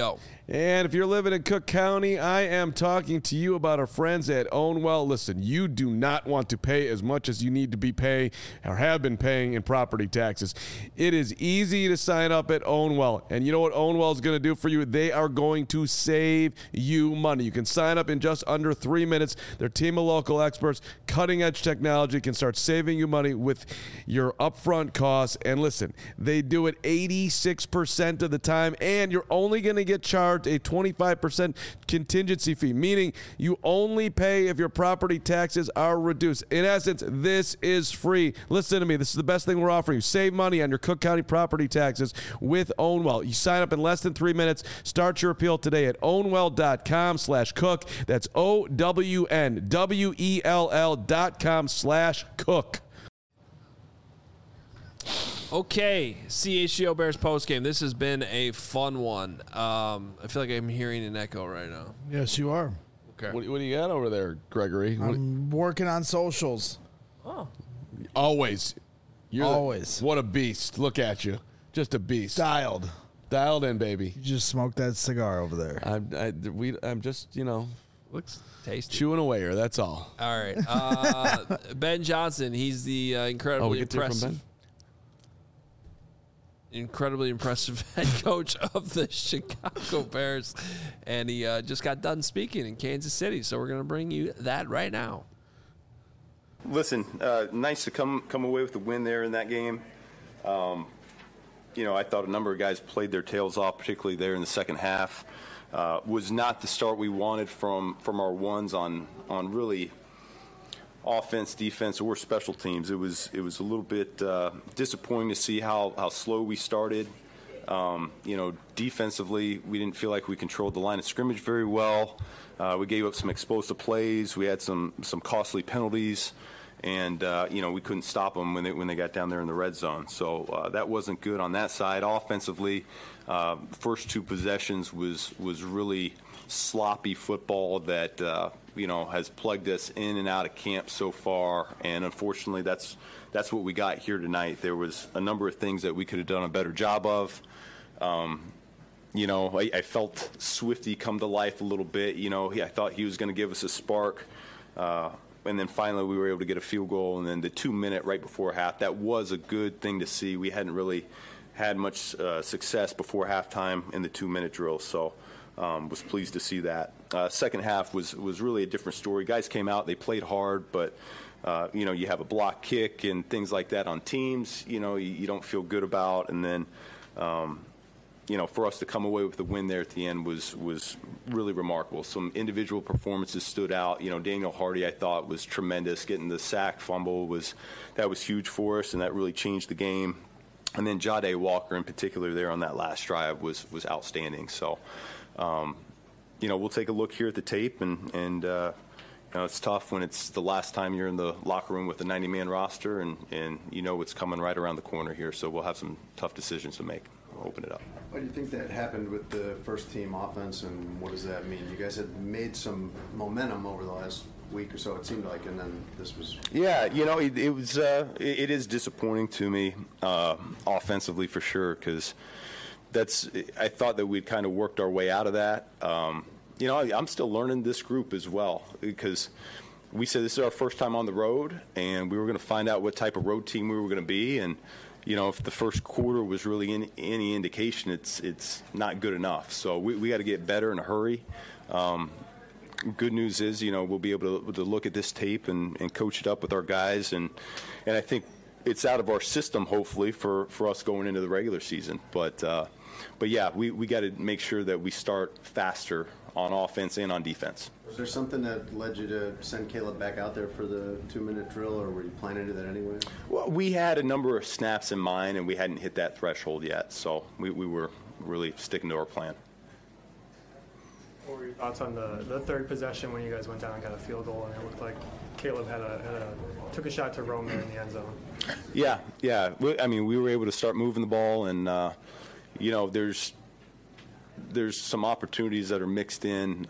And if you're living in Cook County, I am talking to you about our friends at Ownwell. Listen, you do not want to pay as much as you need to be paying or have been paying in property taxes. It is easy to sign up at Ownwell. And you know what Ownwell is going to do for you? They are going to save you money. You can sign up in just under 3 minutes. Their team of local experts, cutting-edge technology can start saving you money with your upfront costs. And listen, they do it 86% of the time, and you're only going to get charged a 25% contingency fee, meaning you only pay if your property taxes are reduced. In essence, this is free. Listen to me. This is the best thing we're offering you. Save money on your Cook County property taxes with Ownwell. You sign up in less than 3 minutes. Start your appeal today at ownwell.com/cook. That's OWNWELL.com/cook. Okay, CHGO Bears postgame. This has been a fun one. I feel like I'm hearing an echo right now. Yes, you are. Okay. What do you got over there, Gregory? I'm working on socials. Always. Always. What a beast. Look at you. Just a beast. Dialed. Dialed in, baby. You just smoked that cigar over there. I'm just, Looks tasty. chewing away here. That's all. All right. Ben Johnson, he's the incredibly impressive head coach of the Chicago Bears. And he just got done speaking in Kansas City. So we're going to bring you that right now. Listen, nice to come away with the win there in that game. I thought a number of guys played their tails off, particularly there in the second half. Was not the start we wanted from our ones on really offense, defense, or special teams. It was a little bit disappointing to see how slow we started. Defensively, we didn't feel like we controlled the line of scrimmage very well. We gave up some explosive plays. We had some costly penalties. And, we couldn't stop them when they got down there in the red zone. So that wasn't good on that side. Offensively, first two possessions was really sloppy football that, has plugged us in and out of camp so far. And unfortunately, that's what we got here tonight. There was a number of things that we could have done a better job of. I felt Swifty come to life a little bit. I thought he was going to give us a spark. And then finally we were able to get a field goal. And then the 2 minute right before half, that was a good thing to see. We hadn't really had much success before halftime in the 2 minute drill. So was pleased to see that. Second half was really a different story. Guys came out, they played hard, but you have a block kick and things like that on teams, you don't feel good about. And then, for us to come away with the win there at the end was really remarkable. Some individual performances stood out. Daniel Hardy, I thought, was tremendous. Getting the sack fumble was huge for us, and that really changed the game. And then Jahdae Walker, in particular, there on that last drive was outstanding. So, we'll take a look here at the tape, and it's tough when it's the last time you're in the locker room with a 90-man roster, and it's coming right around the corner here. So we'll have some tough decisions to make. We'll open it up. Why do you think that happened with the first team offense, and what does that mean? You guys had made some momentum over the last week or so, it seemed like, and then this was... Yeah, it is disappointing to me offensively for sure, because I thought that we'd kind of worked our way out of that. I'm still learning this group as well, because we said this is our first time on the road, and we were going to find out what type of road team we were going to be, and if the first quarter was really any indication, it's not good enough. So we got to get better in a hurry. Good news is, we'll be able to look at this tape and coach it up with our guys, and I think it's out of our system, hopefully, for us going into the regular season. But yeah, we got to make sure that we start faster on offense and on defense. Was there something that led you to send Caleb back out there for the 2 minute drill, or were you planning to do that anyway? Well, we had a number of snaps in mind, and we hadn't hit that threshold yet, so we were really sticking to our plan. What were your thoughts on the third possession when you guys went down and got a field goal, and it looked like Caleb took a shot to roam there in the end zone? Yeah. We were able to start moving the ball, and there's some opportunities that are mixed in.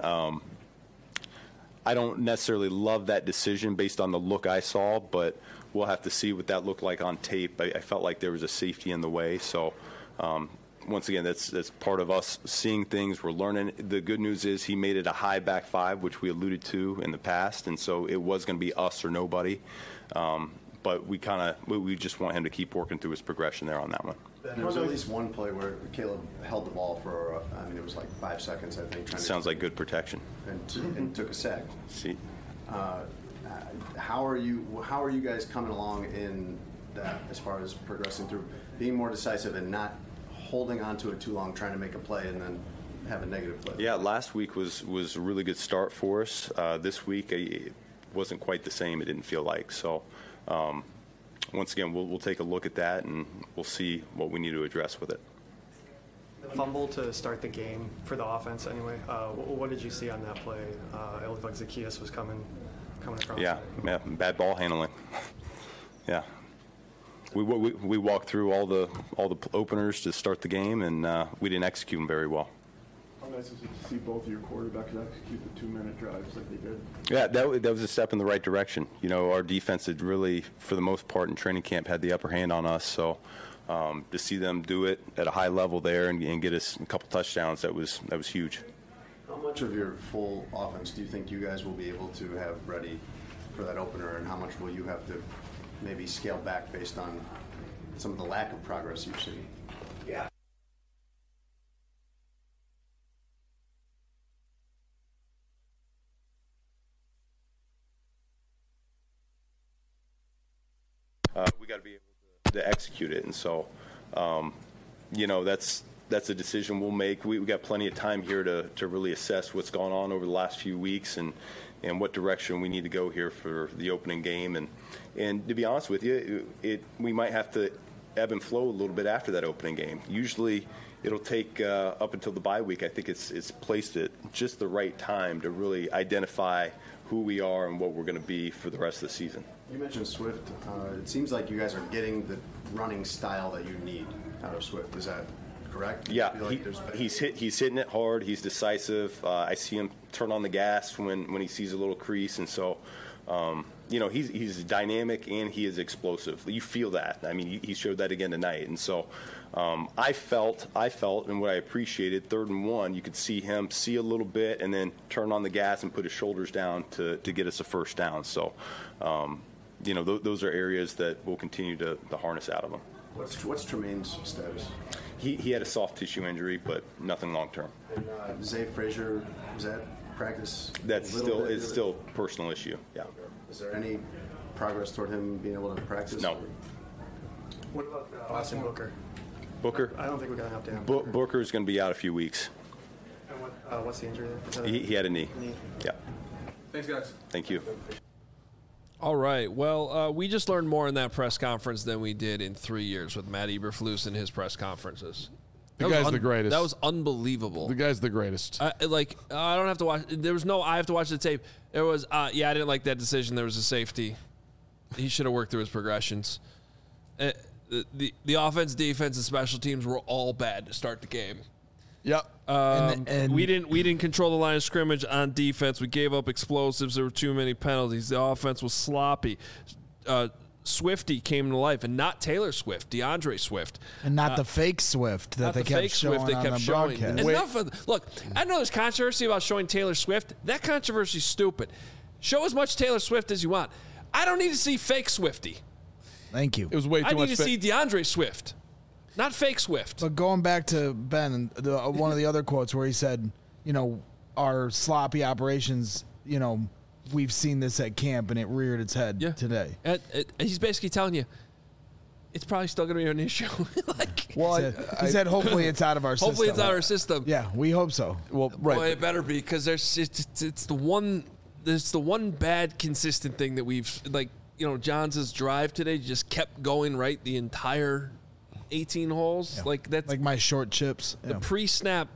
I don't necessarily love that decision based on the look I saw, but we'll have to see what that looked like on tape. I felt like there was a safety in the way, so once again, that's part of us seeing things. We're learning. The good news is he made it a high back five, which we alluded to in the past, and so it was going to be us or nobody. But we just want him to keep working through his progression there on that one. There was at least one play where Caleb held the ball for, it was like 5 seconds, I think. Sounds like good protection. And took a sack. See. How are you guys coming along in that as far as progressing through, being more decisive and not holding on to it too long, trying to make a play and then have a negative play? Yeah, last week was a really good start for us. This week it wasn't quite the same. It didn't feel like so. Once again, we'll take a look at that and we'll see what we need to address with it. The fumble to start the game for the offense, anyway. What did you see on that play? It looked like Zaccheaus was coming across. Yeah, bad ball handling. Yeah, we walked through all the openers to start the game, and we didn't execute them very well. How nice is it to see both of your quarterbacks execute the 2-minute drives like they did? Yeah, that was a step in the right direction. You know, our defense had really, for the most part in training camp, had the upper hand on us. So to see them do it at a high level there and get us a couple touchdowns, that was huge. How much of your full offense do you think you guys will be able to have ready for that opener, and how much will you have to maybe scale back based on some of the lack of progress you've seen? Yeah. We got to be able to execute it, and so, that's a decision we'll make. We got plenty of time here to really assess what's gone on over the last few weeks and what direction we need to go here for the opening game. And to be honest with you, we might have to ebb and flow a little bit after that opening game. Usually it'll take up until the bye week. I think it's placed at just the right time to really identify who we are and what we're going to be for the rest of the season. You mentioned Swift. It seems like you guys are getting the running style that you need out of Swift. Is that correct? Yeah, he's hitting it hard. He's decisive. I see him turn on the gas when he sees a little crease, and so he's dynamic and he is explosive. You feel that. I mean, he showed that again tonight, and so I felt, and what I appreciated, 3rd and 1, you could see him see a little bit and then turn on the gas and put his shoulders down to get us a first down. So, those are areas that we'll continue to harness out of him. What's Tremaine's status? He had a soft tissue injury, but nothing long term. And Zay Frazier, was that practice? It's still a personal issue. Yeah. Is there any progress toward him being able to practice? No. What about Austin Booker? Booker? I don't think we got an update on Booker is going to be out a few weeks. And what's the injury there? He had a knee. Yeah. Thanks, guys. Thank you. All right. Well, we just learned more in that press conference than we did in 3 years with Matt Eberflus and his press conferences. The guy's the greatest. That was unbelievable. The guy's the greatest. I don't have to watch. I have to watch the tape. There was, I didn't like that decision. There was a safety. He should have worked through his progressions. The offense, defense, and special teams were all bad to start the game. Yep. And we didn't control the line of scrimmage on defense. We gave up explosives. There were too many penalties. The offense was sloppy. Swifty came to life, and not Taylor Swift, DeAndre Swift, and not the fake Swift that they kept showing on the broadcast. Look, I know there's controversy about showing Taylor Swift. That controversy is stupid. Show as much Taylor Swift as you want. I don't need to see fake Swifty. Thank you. It was way too much. I need to see DeAndre Swift, not fake Swift. But going back to Ben, one of the other quotes where he said, our sloppy operations, we've seen this at camp, and it reared its head today. He's basically telling you it's probably still going to be an issue. He said, hopefully it's out of our system. Hopefully it's out of our system. Yeah, we hope so. Well, right. Well, it better be, because it's the one bad consistent thing that we've, Johns' drive today just kept going right the entire 18 holes. Yeah. That's like my short chips. The pre-snap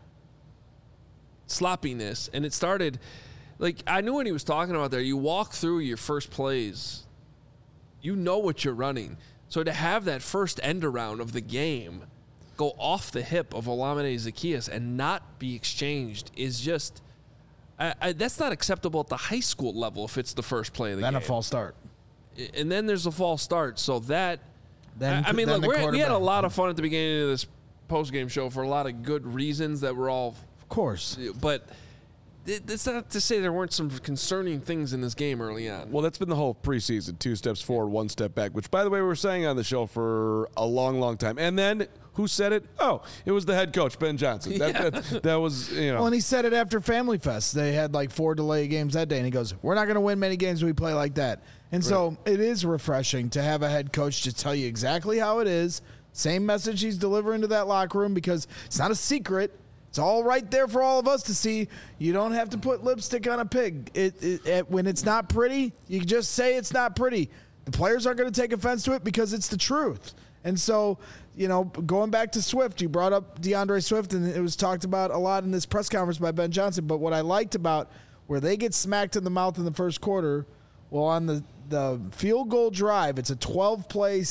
sloppiness, and it started. I knew what he was talking about there. You walk through your first plays, you know what you're running. So to have that first end around of the game go off the hip of Olamide Zaccheaus and not be exchanged is just that's not acceptable at the high school level if it's the first play of the game. Then a false start. And then there's a false start. So that, we had a lot of fun at the beginning of this post-game show for a lot of good reasons that were all, Of course. but it's not to say there weren't some concerning things in this game early on. Well, that's been the whole preseason. 2 steps forward, 1 step back, which, by the way, we were saying on the show for a long, long time. And then who said it? Oh, it was the head coach, Ben Johnson. That was, Well, and he said it after Family Fest. They had like 4 delay games that day, and he goes, we're not going to win many games we play like that. And so it is refreshing to have a head coach to tell you exactly how it is. Same message he's delivering to that locker room, because it's not a secret. It's all right there for all of us to see. You don't have to put lipstick on a pig. When it's not pretty, you just say it's not pretty. The players aren't going to take offense to it because it's the truth. And so, going back to Swift, you brought up DeAndre Swift, and it was talked about a lot in this press conference by Ben Johnson. But what I liked about where they get smacked in the mouth in the first quarter, well, on the field goal drive, it's a 12-play,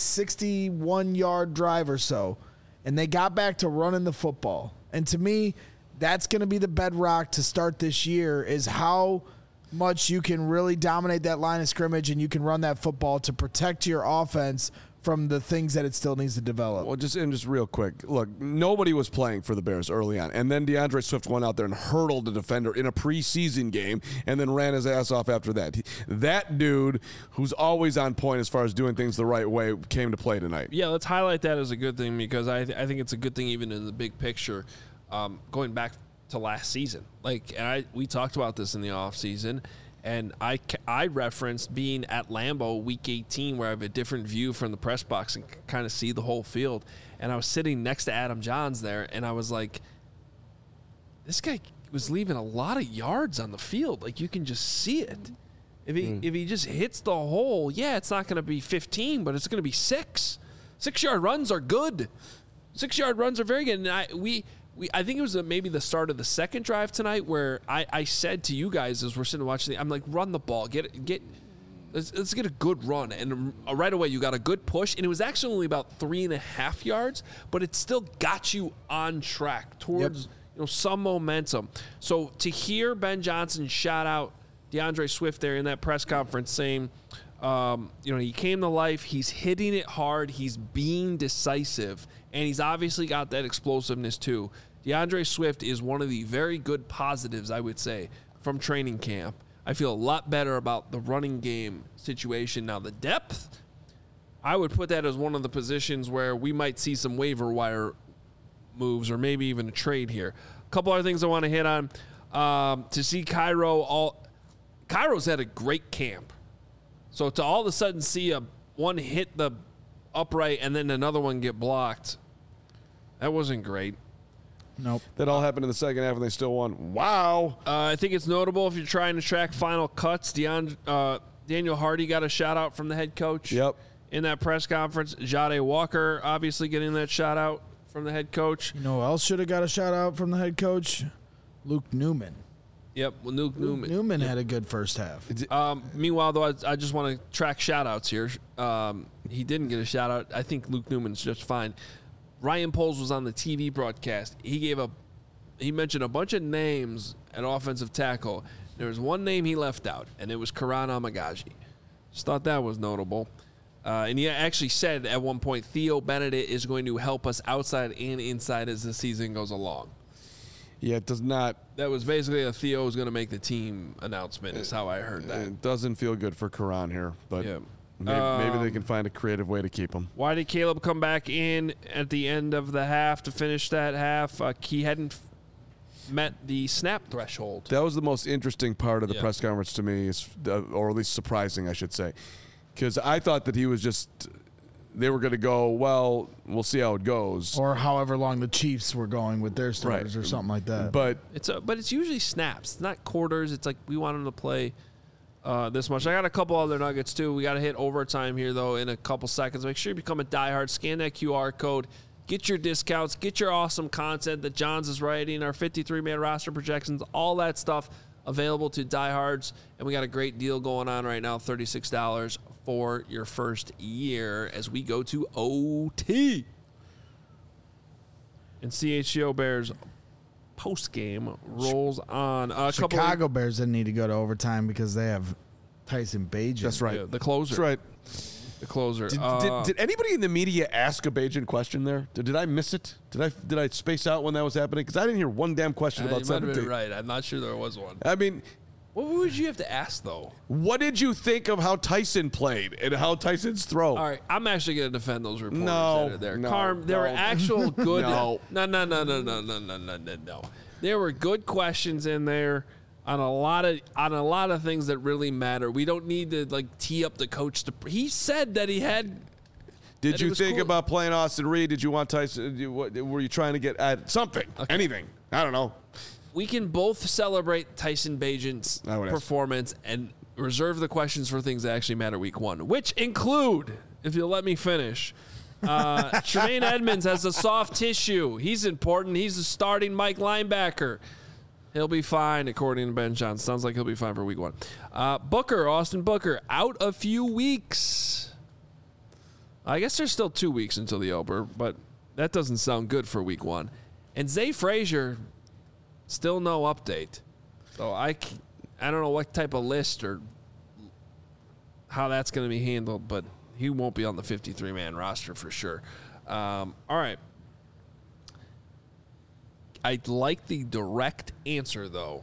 61-yard drive or so, and they got back to running the football. And to me, that's going to be the bedrock to start this year, is how much you can really dominate that line of scrimmage and you can run that football to protect your offense from the things that it still needs to develop. Well, just real quick, look, nobody was playing for the Bears early on, and then DeAndre Swift went out there and hurdled a defender in a preseason game and then ran his ass off after that. That dude, who's always on point as far as doing things the right way, came to play tonight. Yeah, let's highlight that as a good thing, because I think it's a good thing even in the big picture, going back to last season. We talked about this in the offseason, and I referenced being at Lambeau Week 18, where I have a different view from the press box and kind of see the whole field. And I was sitting next to Adam Johns there, and I was like, this guy was leaving a lot of yards on the field. Like, you can just see it. If he just hits the hole, it's not going to be 15, but it's going to be 6. 6-yard runs are good. 6-yard runs are very good. And I think it was maybe the start of the second drive tonight where I said to you guys as we're sitting watching I'm like, run the ball, let's get a good run. And right away you got a good push, and it was actually only about 3.5 yards, but it still got you on track towards some momentum. So to hear Ben Johnson shout out DeAndre Swift there in that press conference saying, he came to life, he's hitting it hard, he's being decisive, and he's obviously got that explosiveness too. DeAndre Swift is one of the very good positives, I would say, from training camp. I feel a lot better about the running game situation. Now, the depth, I would put that as one of the positions where we might see some waiver wire moves or maybe even a trade here. A couple other things I want to hit on. To see Cairo's had a great camp. So to all of a sudden see one hit the upright and then another one get blocked, that wasn't great. Nope. That all happened in the second half, and they still won. Wow. I think it's notable if you're trying to track final cuts. Daniel Hardy got a shout-out from the head coach in that press conference. Jade Walker obviously getting that shout-out from the head coach. You know who else should have got a shout-out from the head coach? Luke Newman. Yep, well, Luke Newman. Newman had a good first half. Meanwhile, though, I just want to track shout-outs here. He didn't get a shout-out. I think Luke Newman's just fine. Ryan Poles was on the TV broadcast. He mentioned a bunch of names at offensive tackle. There was one name he left out, and it was Karan Amagaji. Just thought that was notable. And he actually said at one point, Theo Benedict is going to help us outside and inside as the season goes along. Yeah, it does not. That was basically a Theo is going to make the team announcement is how I heard that. It doesn't feel good for Karan here, but maybe they can find a creative way to keep him. Why did Caleb come back in at the end of the half to finish that half? He hadn't met the snap threshold. That was the most interesting part of the press conference to me, or at least surprising, I should say, because I thought that he was just – they were going to go, well, we'll see how it goes. Or however long the Chiefs were going with their starters or something like that. But it's usually snaps. It's not quarters. It's like we want them to play this much. I got a couple other nuggets, too. We got to hit overtime here, though, in a couple seconds. Make sure you become a diehard. Scan that QR code. Get your discounts. Get your awesome content that Johns is writing, our 53-man roster projections, all that stuff available to diehards. And we got a great deal going on right now, $36 for your first year as we go to OT. And CHGO Bears post-game rolls on. Chicago Bears didn't need to go to overtime because they have Tyson Bagent. That's right. Yeah, the closer. That's right. The closer. Did anybody in the media ask a Bajan question there? Did I miss it? Did I space out when that was happening? Because I didn't hear one damn question about you might have 17. been right. I'm not sure there was one. I mean, What would you have to ask, though? what did you think of how Tyson played and how Tyson's throw? All right, I'm actually going to defend those reporters No, that are there. no, Carm, there were no. actual good. No. No. There were good questions in there on a lot of things that really matter. We don't need to like tee up the coach. He said that he had. Did you think cool. about playing Austin Reed? Did you want Tyson? Were you trying to get at something? Okay. Anything? I don't know. We can both celebrate Tyson Bagent's I would ask. performance and reserve the questions for things that actually matter week one, which include, if you'll let me finish, Tremaine Edmonds has a soft tissue. He's important. He's a starting Mike linebacker. He'll be fine, according to Ben Johnson. Sounds like he'll be fine for week one. Austin Booker, out a few weeks. I guess there's still 2 weeks until the Oper, but that doesn't sound good for week one. And Zay Frazier, still no update. So I don't know what type of list or how that's going to be handled, but he won't be on the 53-man roster for sure. All right. I like the direct answer, though.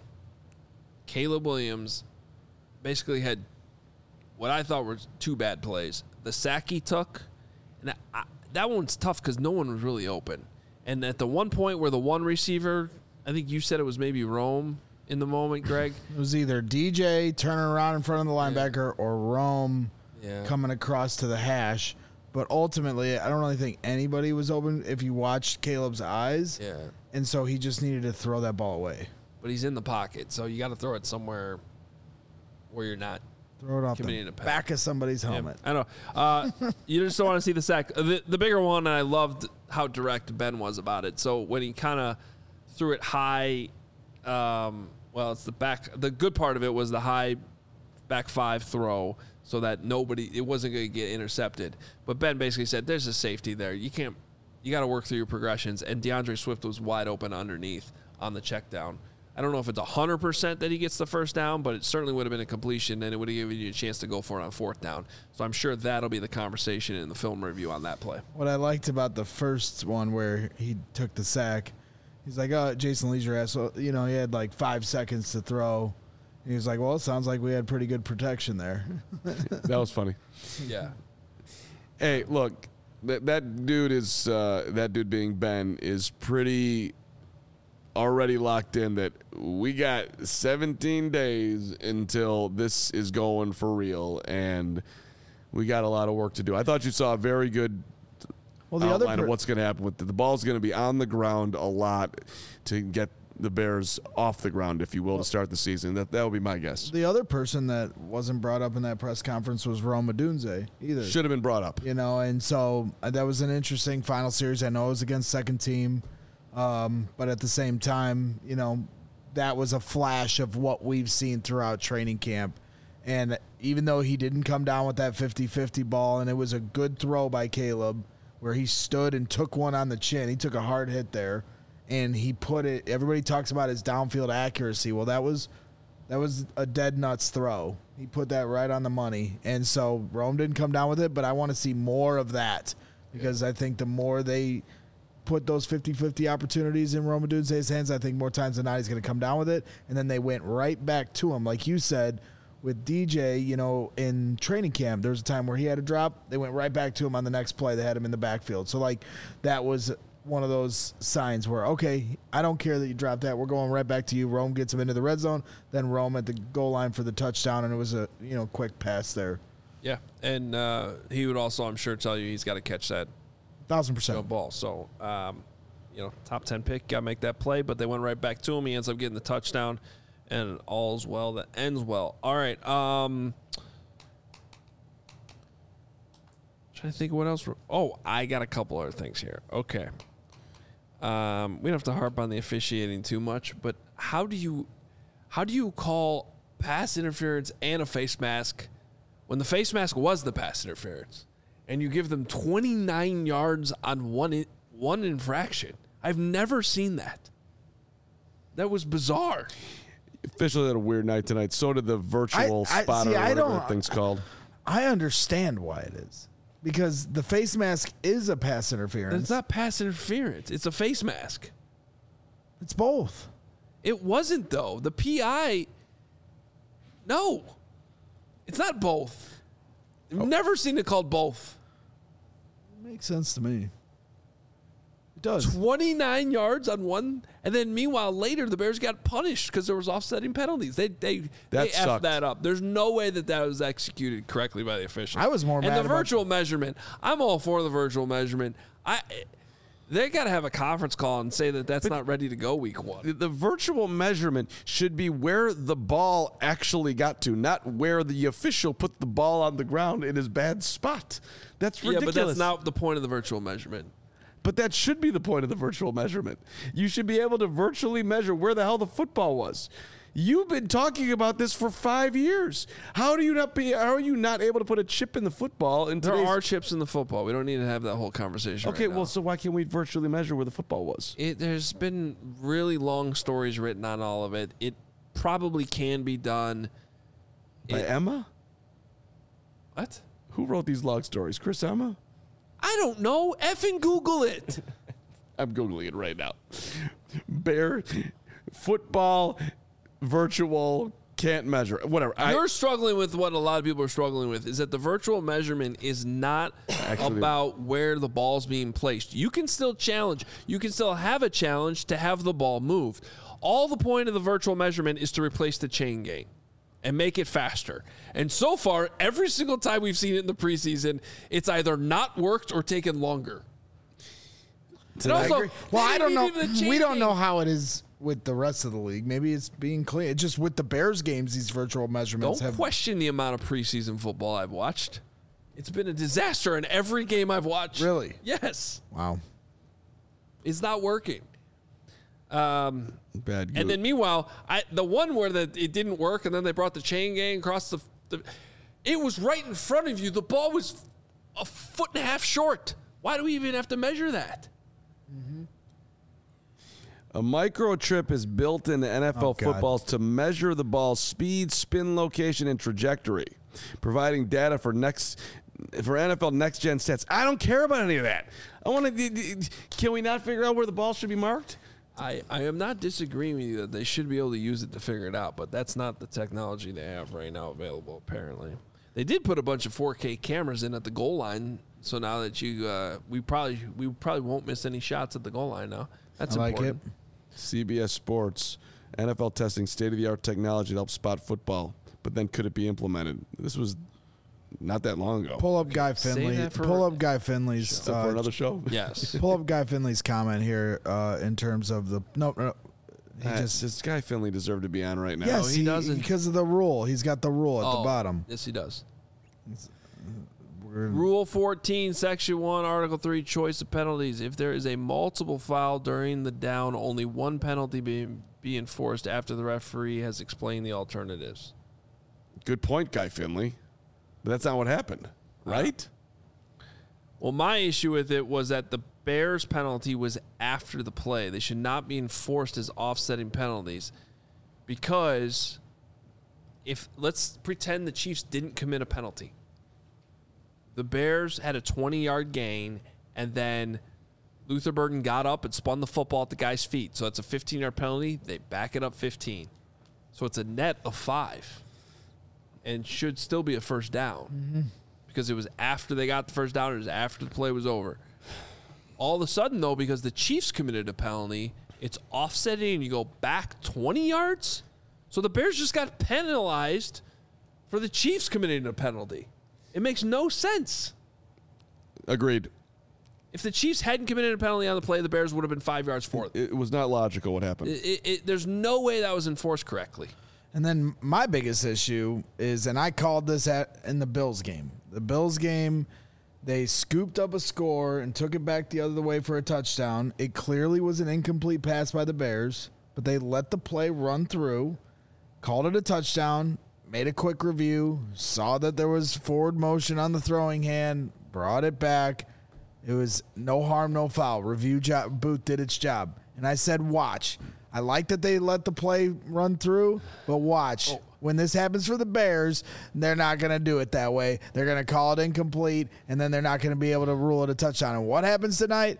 Caleb Williams basically had what I thought were 2 bad plays. The sack he took, and that one's tough because no one was really open. And at the one point where the one receiver, I think you said it was maybe Rome in the moment, Greg. It was either DJ turning around in front of the linebacker or Rome coming across to the hash. But ultimately, I don't really think anybody was open if you watched Caleb's eyes. Yeah. And so he just needed to throw that ball away. But he's in the pocket, so you got to throw it somewhere where you're not Throw it off committing the a pass. back of somebody's helmet. I know. You just don't want to see the sack. The bigger one, and I loved how direct Ben was about it. So when he kind of threw it high, it's the back. The good part of it was the high back 5 throw, so that it wasn't going to get intercepted. But Ben basically said, "There's a safety there. You got to work through your progressions." And DeAndre Swift was wide open underneath on the check down. I don't know if it's 100% that he gets the first down, but it certainly would have been a completion, and it would have given you a chance to go for it on 4th down. So I'm sure that'll be the conversation in the film review on that play. What I liked about the first one where he took the sack, he's like, "Oh, Jason Leisure asked, well, he had like 5 seconds to throw." And he was like, "Well, it sounds like we had pretty good protection there." That was funny. Yeah. Hey, look, that dude being Ben is pretty already locked in that we got 17 days until this is going for real, and we got a lot of work to do. I thought you saw a very good outline of what's going to happen with the ball's going to be on the ground a lot to get the Bears off the ground, if you will, to start the season. That would be my guess. The other person that wasn't brought up in that press conference was Rome Odunze either. Should have been brought up. And so that was an interesting final series. I know it was against second team, but at the same time, that was a flash of what we've seen throughout training camp. And even though he didn't come down with that 50-50 ball, and it was a good throw by Caleb where he stood and took one on the chin. He took a hard hit there. And he put it. Everybody talks about his downfield accuracy. Well, that was a dead nuts throw. He put that right on the money. And so Rome didn't come down with it, but I want to see more of that because I think the more they put those 50-50 opportunities in Rome Odunze's hands, I think more times than not he's going to come down with it. And then they went right back to him, like you said with DJ. In training camp, there was a time where he had a drop. They went right back to him on the next play. They had him in the backfield. So that was one of those signs where, okay, I don't care that you dropped that. We're going right back to you. Rome gets him into the red zone, then Rome at the goal line for the touchdown, and it was a quick pass there. Yeah, and he would also, I'm sure, tell you he's got to catch that 1,000% ball. So, top 10 pick, got to make that play, but they went right back to him. He ends up getting the touchdown, and all's well that ends well. All right, trying to think of what else. I got a couple other things here. Okay. We don't have to harp on the officiating too much, but how do you call pass interference and a face mask when the face mask was the pass interference, and you give them 29 yards on one infraction? I've never seen that. That was bizarre. Officially had a weird night tonight. So did the virtual spotter, or whatever that thing's called. I understand why it is. Because the face mask is a pass interference. It's not pass interference. It's a face mask. It's both. It wasn't, though. The PI, no. It's not both. I've never seen it called both. Makes sense to me. It does. 29 yards on one, and then meanwhile later the Bears got punished because there was offsetting penalties. They effed sucked. that up. There's no way that was executed correctly by the officials. I was more mad and the about virtual measurement. I'm all for the virtual measurement. They got to have a conference call and say that that's not ready to go week 1. The virtual measurement should be where the ball actually got to, not where the official put the ball on the ground in his bad spot. That's ridiculous. Yeah, but that's not the point of the virtual measurement. But that should be the point of the virtual measurement. You should be able to virtually measure where the hell the football was. You've been talking about this for 5 years. How are you not able to put a chip in the football? There are chips in the football. We don't need to have that whole conversation. Okay, right now. well, so why can't we virtually measure where the football was? There's been really long stories written on all of it. It probably can be done. By Emma? What? Who wrote these long stories? Chris Emma? I don't know. Effing Google it. I'm Googling it right now. Bear football virtual can't measure. Whatever. You're struggling with what a lot of people are struggling with is that the virtual measurement is not about where the ball's being placed. You can still challenge. You can still have a challenge to have the ball moved. All the point of the virtual measurement is to replace the chain gang and make it faster. And so far, every single time we've seen it in the preseason, it's either not worked or taken longer. And also, well, I don't know. We don't know gang. how it is with the rest of the league. Maybe it's being clean. It's just with the Bears games, these virtual measurements Don't question the amount of preseason football I've watched. It's been a disaster in every game I've watched. Really? Yes. Wow. It's not working. Bad. And then meanwhile, the one where it didn't work, and then they brought the chain gang across the it was right in front of you. The ball was a foot and a half short. Why do we even have to measure that? A microchip is built into NFL footballs to measure the ball's speed, spin location, and trajectory, providing data for NFL next gen stats. I don't care about any of that. I want to. Can we not figure out where the ball should be marked? I am not disagreeing with you that they should be able to use it to figure it out, but that's not the technology they have right now available, apparently. They did put a bunch of 4K cameras in at the goal line, so now that we probably won't miss any shots at the goal line now. That's important. It. CBS Sports, NFL testing state-of-the-art technology to help spot football, but then could it be implemented? This was not that long ago. Pull up Guy Finley. Pull up Guy Finley's. For another show? Yes. Pull up Guy Finley's comment here in terms of the no. This Guy Finley deserved to be on right now. Yes, he doesn't. Because of the rule. He's got the rule at the bottom. Yes, he does. Rule 14, Section 1, Article 3, choice of penalties. If there is a multiple foul during the down, only one penalty be enforced after the referee has explained the alternatives. Good point, Guy Finley. But that's not what happened, right? Well, my issue with it was that the Bears penalty was after the play. They should not be enforced as offsetting penalties because let's pretend the Chiefs didn't commit a penalty. The Bears had a 20-yard gain, and then Luther Burden got up and spun the football at the guy's feet. So it's a 15-yard penalty. They back it up 15. So it's a net of 5 and should still be a first down because it was after they got the first down. It was after the play was over. All of a sudden, though, because the Chiefs committed a penalty, it's offsetting and you go back 20 yards. So the Bears just got penalized for the Chiefs committing a penalty. It makes no sense. Agreed. If the Chiefs hadn't committed a penalty on the play, the Bears would have been 5 yards forward. It was not logical what happened. There's no way that was enforced correctly. And then my biggest issue is, and I called this in the Bills game. The Bills game, they scooped up a score and took it back the other way for a touchdown. It clearly was an incomplete pass by the Bears, but they let the play run through, called it a touchdown, made a quick review, saw that there was forward motion on the throwing hand, brought it back. It was no harm, no foul. Review job, booth did its job. And I said, watch. I like that they let the play run through, but watch. When this happens for the Bears, they're not going to do it that way. They're going to call it incomplete, and then they're not going to be able to rule it a touchdown. And what happens tonight?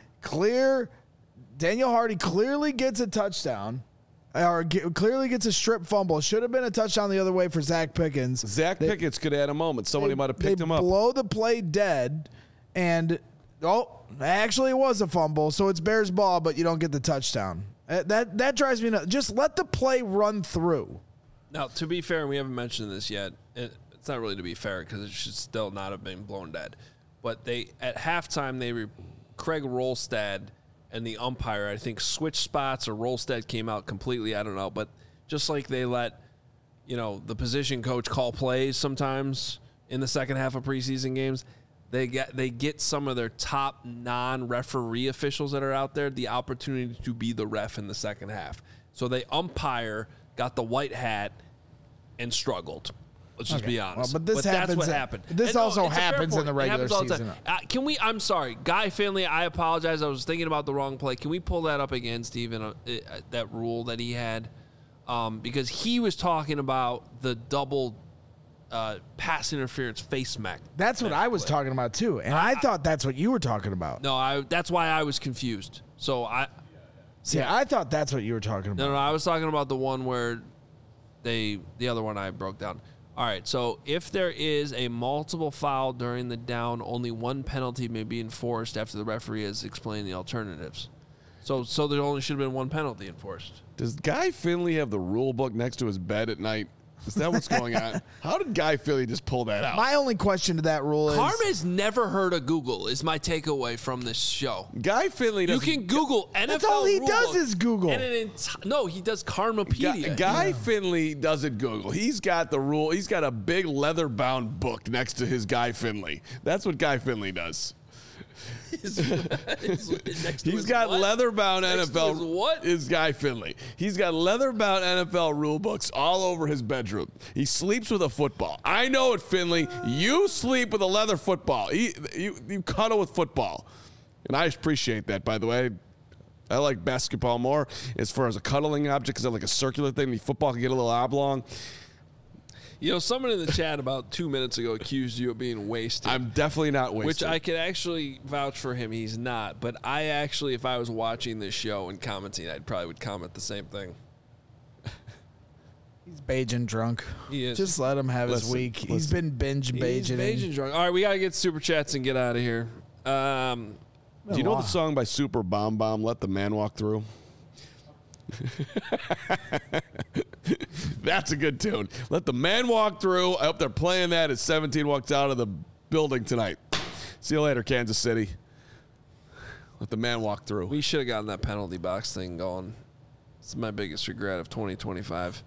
Daniel Hardy clearly gets a touchdown, or clearly gets a strip fumble. Should have been a touchdown the other way for Zach Pickens. Zach Pickens could have had a moment. Somebody might have picked him up. They blow the play dead, and actually it was a fumble, so it's Bears ball, but you don't get the touchdown. That drives me nuts. Just let the play run through. Now, to be fair, we haven't mentioned this yet. It's not really to be fair because it should still not have been blown dead. But at halftime, Craig Rolstad and the umpire, I think, switched spots, or Rolstad came out completely. I don't know. But just like they let, the position coach call plays sometimes in the second half of preseason games, they get some of their top non-referee officials that are out there the opportunity to be the ref in the second half. So they umpire, got the white hat, and struggled. Let's just be honest. Well, but that's what happened. This also happens in the regular season. I'm sorry. Guy Finley, I apologize. I was thinking about the wrong play. Can we pull that up again, Steven, that rule that he had? Because he was talking about the double pass interference face mask. That's what I was talking about, too. And I thought that's what you were talking about. No, that's why I was confused. So I thought that's what you were talking about. No, I was talking about the one where the other one I broke down. All right, so if there is a multiple foul during the down, only one penalty may be enforced after the referee has explained the alternatives. So there only should have been one penalty enforced. Does Guy Finley have the rule book next to his bed at night? Is that what's going on? How did Guy Finley just pull that out? My only question to that rule is... Carm has never heard of Google, is my takeaway from this show. Guy Finley doesn't... You can Google NFL That's all he rule does book, is Google. No, he does Karmapedia. Guy Finley doesn't Google. He's got the rule. He's got a big leather-bound book next to his Guy Finley. That's what Guy Finley does. He's got leather-bound NFL. What is Guy Finley? He's got leather-bound NFL rule books all over his bedroom. He sleeps with a football. I know it, Finley. You sleep with a leather football. You cuddle with football, and I appreciate that. By the way, I like basketball more as far as a cuddling object because I like a circular thing. The football can get a little oblong. Someone in the chat about 2 minutes ago accused you of being wasted. I'm definitely not wasted. Which I could actually vouch for him. He's not. But I actually, if I was watching this show and commenting, I probably would comment the same thing. He's Bajan drunk. He is. Just let him have his week. He's been binge Bajan. He's Bajan drunk. All right, we got to get super chats and get out of here. Do you know the song by Super Bomb Bomb, Let the Man Walk Through? That's a good tune. Let the man walk through. I hope they're playing that as 17 walks out of the building tonight. See you later, Kansas City. Let the man walk through. We should have gotten that penalty box thing going. It's my biggest regret of 2025.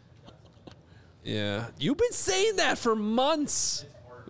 Yeah. You've been saying that for months.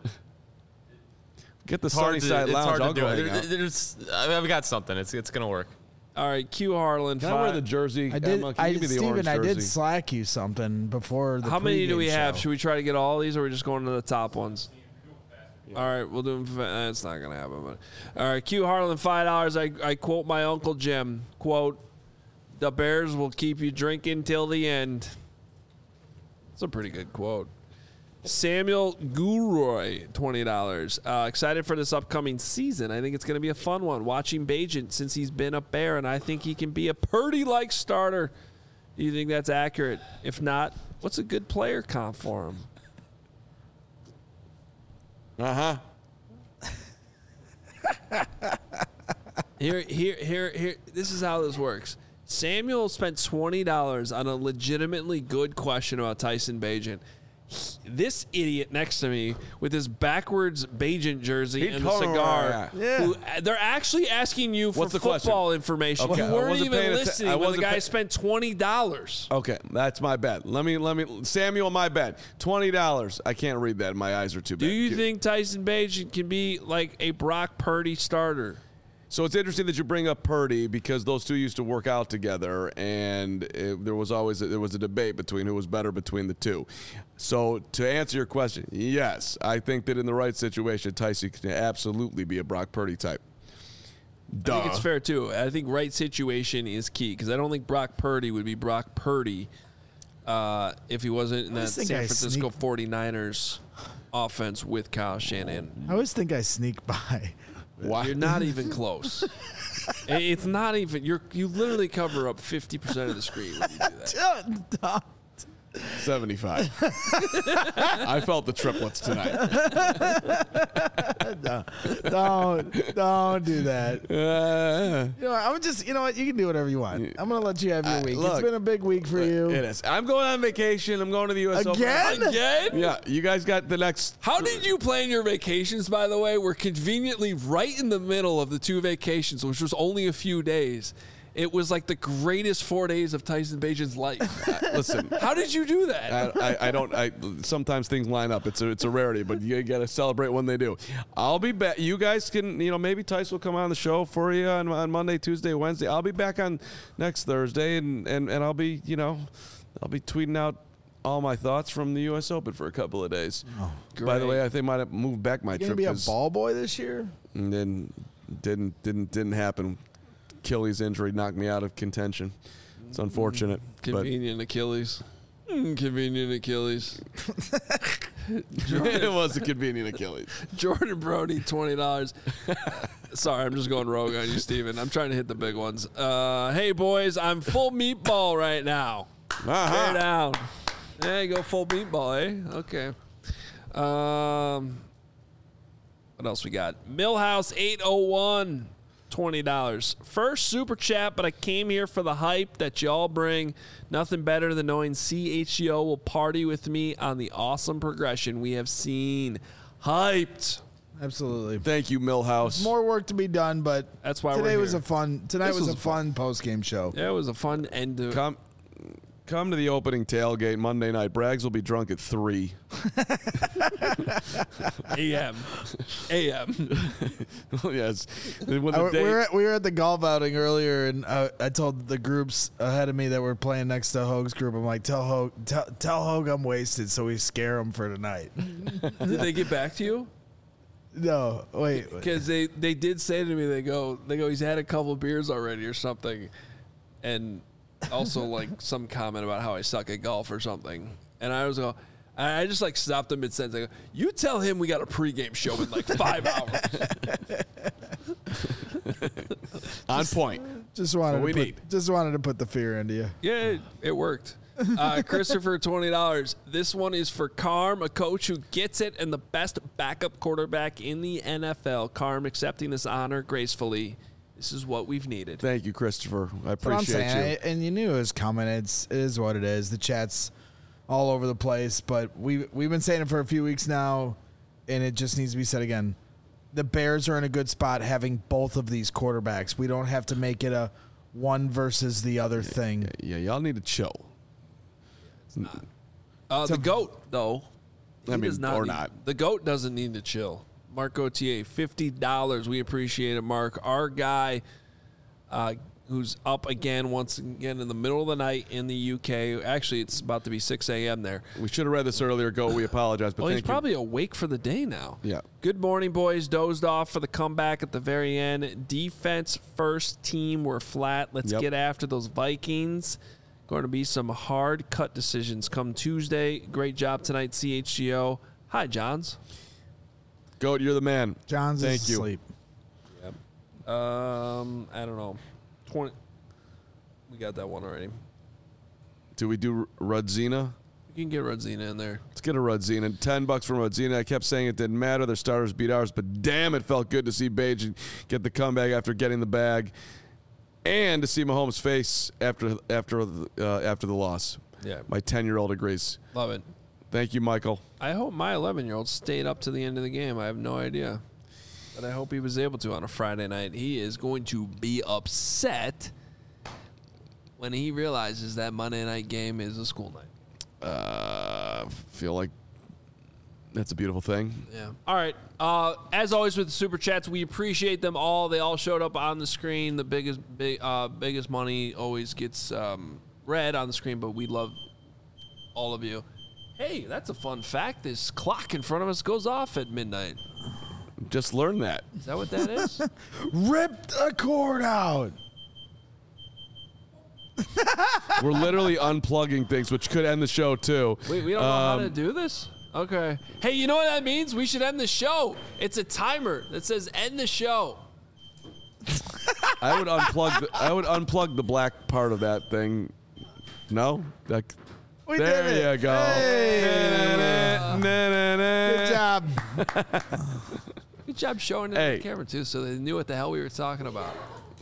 Get the Sunnyside Lounge. I'll go hang out. I've got something. It's going to work. All right, Q Harlan. Can I wear the jersey? I did. Emma, can you give me the orange Steven, I did jersey? slack you something before the How many do we pregame have? show. Should we try to get all these, or are we just going to the top ones? All right, we'll do them. It's not going to happen. But. All right, Q Harlan, $5. I quote my Uncle Jim, quote, "The Bears will keep you drinking till the end." It's a pretty good quote. Samuel Guroy, $20. Excited for this upcoming season. I think it's going to be a fun one. Watching Bajan since he's been a Bear, and I think he can be a Purdy-like starter. Do you think that's accurate? If not, what's a good player comp for him? Uh-huh. Here. This is how this works. Samuel spent $20 on a legitimately good question about Tyson Bagent. This idiot next to me with his backwards Bajan jersey and the cigar. Who, they're actually asking you for football information. Okay. You weren't even listening when the guy spent $20. Okay, that's my bad. Let me. Samuel, my bad. $20. I can't read that. My eyes are too bad. Do you think Tyson Bagent can be like a Brock Purdy starter? So it's interesting that you bring up Purdy because those two used to work out together, and there was a debate between who was better between the two. So to answer your question, yes, I think that in the right situation, Tyson can absolutely be a Brock Purdy type. I think it's fair, too. I think right situation is key because I don't think Brock Purdy would be Brock Purdy if he wasn't in that San Francisco 49ers offense with Kyle Shanahan. I always think I sneak by. Why? You're not even close. It's not even. You literally cover up 50% of the screen when you do that. 75. I felt the triplets tonight. Don't do that. I'm just, you know what? You can do whatever you want. I'm going to let you have your week. It's been a big week for you. It is. I'm going on vacation. I'm going to the U.S. Again? Open. Again? Yeah. You guys got the next. How did you plan your vacations, by the way? We're conveniently right in the middle of the 2 vacations, which was only a few days. It was like the greatest 4 days of Tyson Bagent's life. Listen, how did you do that? I don't. Sometimes things line up. It's a rarity, but you got to celebrate when they do. I'll be back. You guys can, maybe Tyson will come on the show for you on Monday, Tuesday, Wednesday. I'll be back on next Thursday, and I'll be, I'll be tweeting out all my thoughts from the U.S. Open for a couple of days. Oh, by the way, I think I might have moved back my trip. You gonna be a ball boy this year? And then didn't happen. Achilles injury knocked me out of contention. It's unfortunate. Convenient Achilles. Convenient Achilles. It was a convenient Achilles. Jordan Brody, $20. Sorry, I'm just going rogue on you, Steven. I'm trying to hit the big ones. Hey, boys, I'm full meatball right now. Tear down. There you go, full meatball, eh? Okay. What else we got? Millhouse 801. $20. First super chat, but I came here for the hype that y'all bring. Nothing better than knowing CHGO will party with me on the awesome progression we have seen. Hyped. Absolutely. Thank you, Millhouse. More work to be done, but that's why today we're was here. Tonight was a fun post-game show. Yeah, it was a fun end to Come to the opening tailgate Monday night. Braggs will be drunk at 3 a.m. Yes. We were at the golf outing earlier, and I told the groups ahead of me that were playing next to Hoag's group, I'm like, tell Hoag I'm wasted, so we scare him for tonight. Did they get back to you? No, wait. Because they did say to me, they go, he's had a couple beers already or something, and also like some comment about how I suck at golf or something. And I just like stopped him mid-sentence. I go, you tell him we got a pregame show in like 5 hours. On point. Just wanted to put the fear into you. Yeah, it worked. Christopher, $20. This one is for Carm, a coach who gets it and the best backup quarterback in the NFL. Carm accepting this honor gracefully. This is what we've needed. Thank you, Christopher. I That's what I'm appreciate saying. you. And you knew it was coming. It is what it is. The chat's all over the place, but we've been saying it for a few weeks now, and it just needs to be said again. The Bears are in a good spot having both of these quarterbacks. We don't have to make it a one versus the other thing. Yeah, y'all need to chill. It's not. The GOAT, though. Not. The GOAT doesn't need to chill. Mark Gauthier, $50. We appreciate it, Mark. Our guy who's up once again in the middle of the night in the UK. Actually, it's about to be 6 a.m. there. We should have read this earlier. We apologize. But he's probably awake for the day now. Yeah. Good morning, boys. Dozed off for the comeback at the very end. Defense first team. We're flat. Let's get after those Vikings. Going to be some hard cut decisions come Tuesday. Great job tonight, CHGO. Hi, Johns. Goat, you're the man. John's Thank you. asleep. Yep. I don't know. 20. We got that one already. Do we do Rudzina? You can get Rudzina in there. Let's get a Rudzina. $10 from Rudzina. I kept saying it didn't matter. Their starters beat ours, but damn, it felt good to see Bajan get the comeback after getting the bag, and to see Mahomes' face after the loss. Yeah. My 10-year-old agrees. Love it. Thank you, Michael. I hope my 11-year-old stayed up to the end of the game. I have no idea. But I hope he was able to on a Friday night. He is going to be upset when he realizes that Monday night game is a school night. Feel like that's a beautiful thing. Yeah. All right. As always with the Super Chats, we appreciate them all. They all showed up on the screen. The biggest money always gets read on the screen, but we love all of you. Hey, that's a fun fact. This clock in front of us goes off at midnight. just learned that. Is that what that is? Ripped a cord out. We're literally unplugging things, which could end the show too. Wait, we don't know how to do this? Okay. Hey, you know what that means? We should end the show. It's a timer that says end the show. I would unplug the black part of that thing. No? We there did it. you go. Hey. Good job. Good job showing it on the camera, too, so they knew what the hell we were talking about.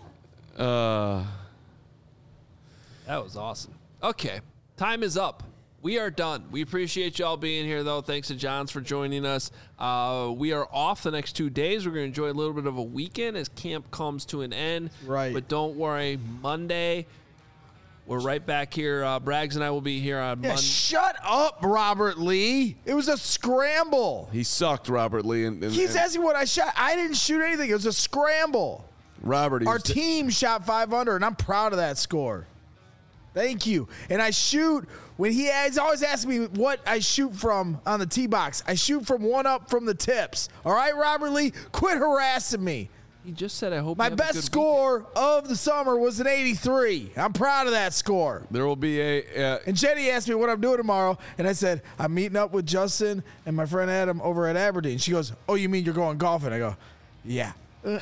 That was awesome. Okay. Time is up. We are done. We appreciate y'all being here, though. Thanks to Johns for joining us. We are off the next 2 days. We're going to enjoy a little bit of a weekend as camp comes to an end. Right. But don't worry. Monday, we're right back here. Braggs and I will be here on Monday. Shut up, Robert Lee. It was a scramble. He sucked, Robert Lee. He's asking what I shot. I didn't shoot anything. It was a scramble. Robert, our team shot 500, and I'm proud of that score. Thank you. And I shoot when he's always asking me what I shoot from on the tee box. I shoot from one up from the tips. All right, Robert Lee, quit harassing me. He just said, I hope my you have a best good score of the summer was an 83. I'm proud of that score. There will be and Jenny asked me what I'm doing tomorrow, and I said, I'm meeting up with Justin and my friend Adam over at Aberdeen. She goes, oh, you mean you're going golfing? I go, yeah.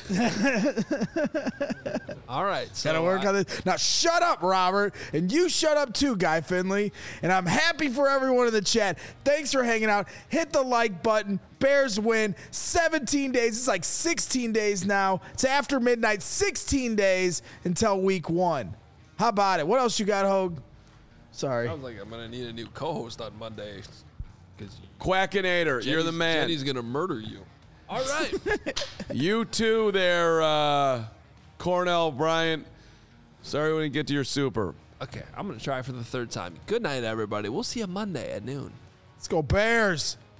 All right. So Gotta work on this. Now shut up, Robert. And you shut up too, Guy Finley. And I'm happy for everyone in the chat. Thanks for hanging out. Hit the like button. Bears win. 17 days. It's like 16 days now. It's after midnight. 16 days until week 1. How about it? What else you got, Hogue? Sorry. Sounds like I'm going to need a new co-host on Monday. Quackinator, you're the man. Jenny's going to murder you. All right. You too there, Cornell Bryant. Sorry we didn't get to your super. Okay, I'm going to try for the third time. Good night, everybody. We'll see you Monday at noon. Let's go Bears.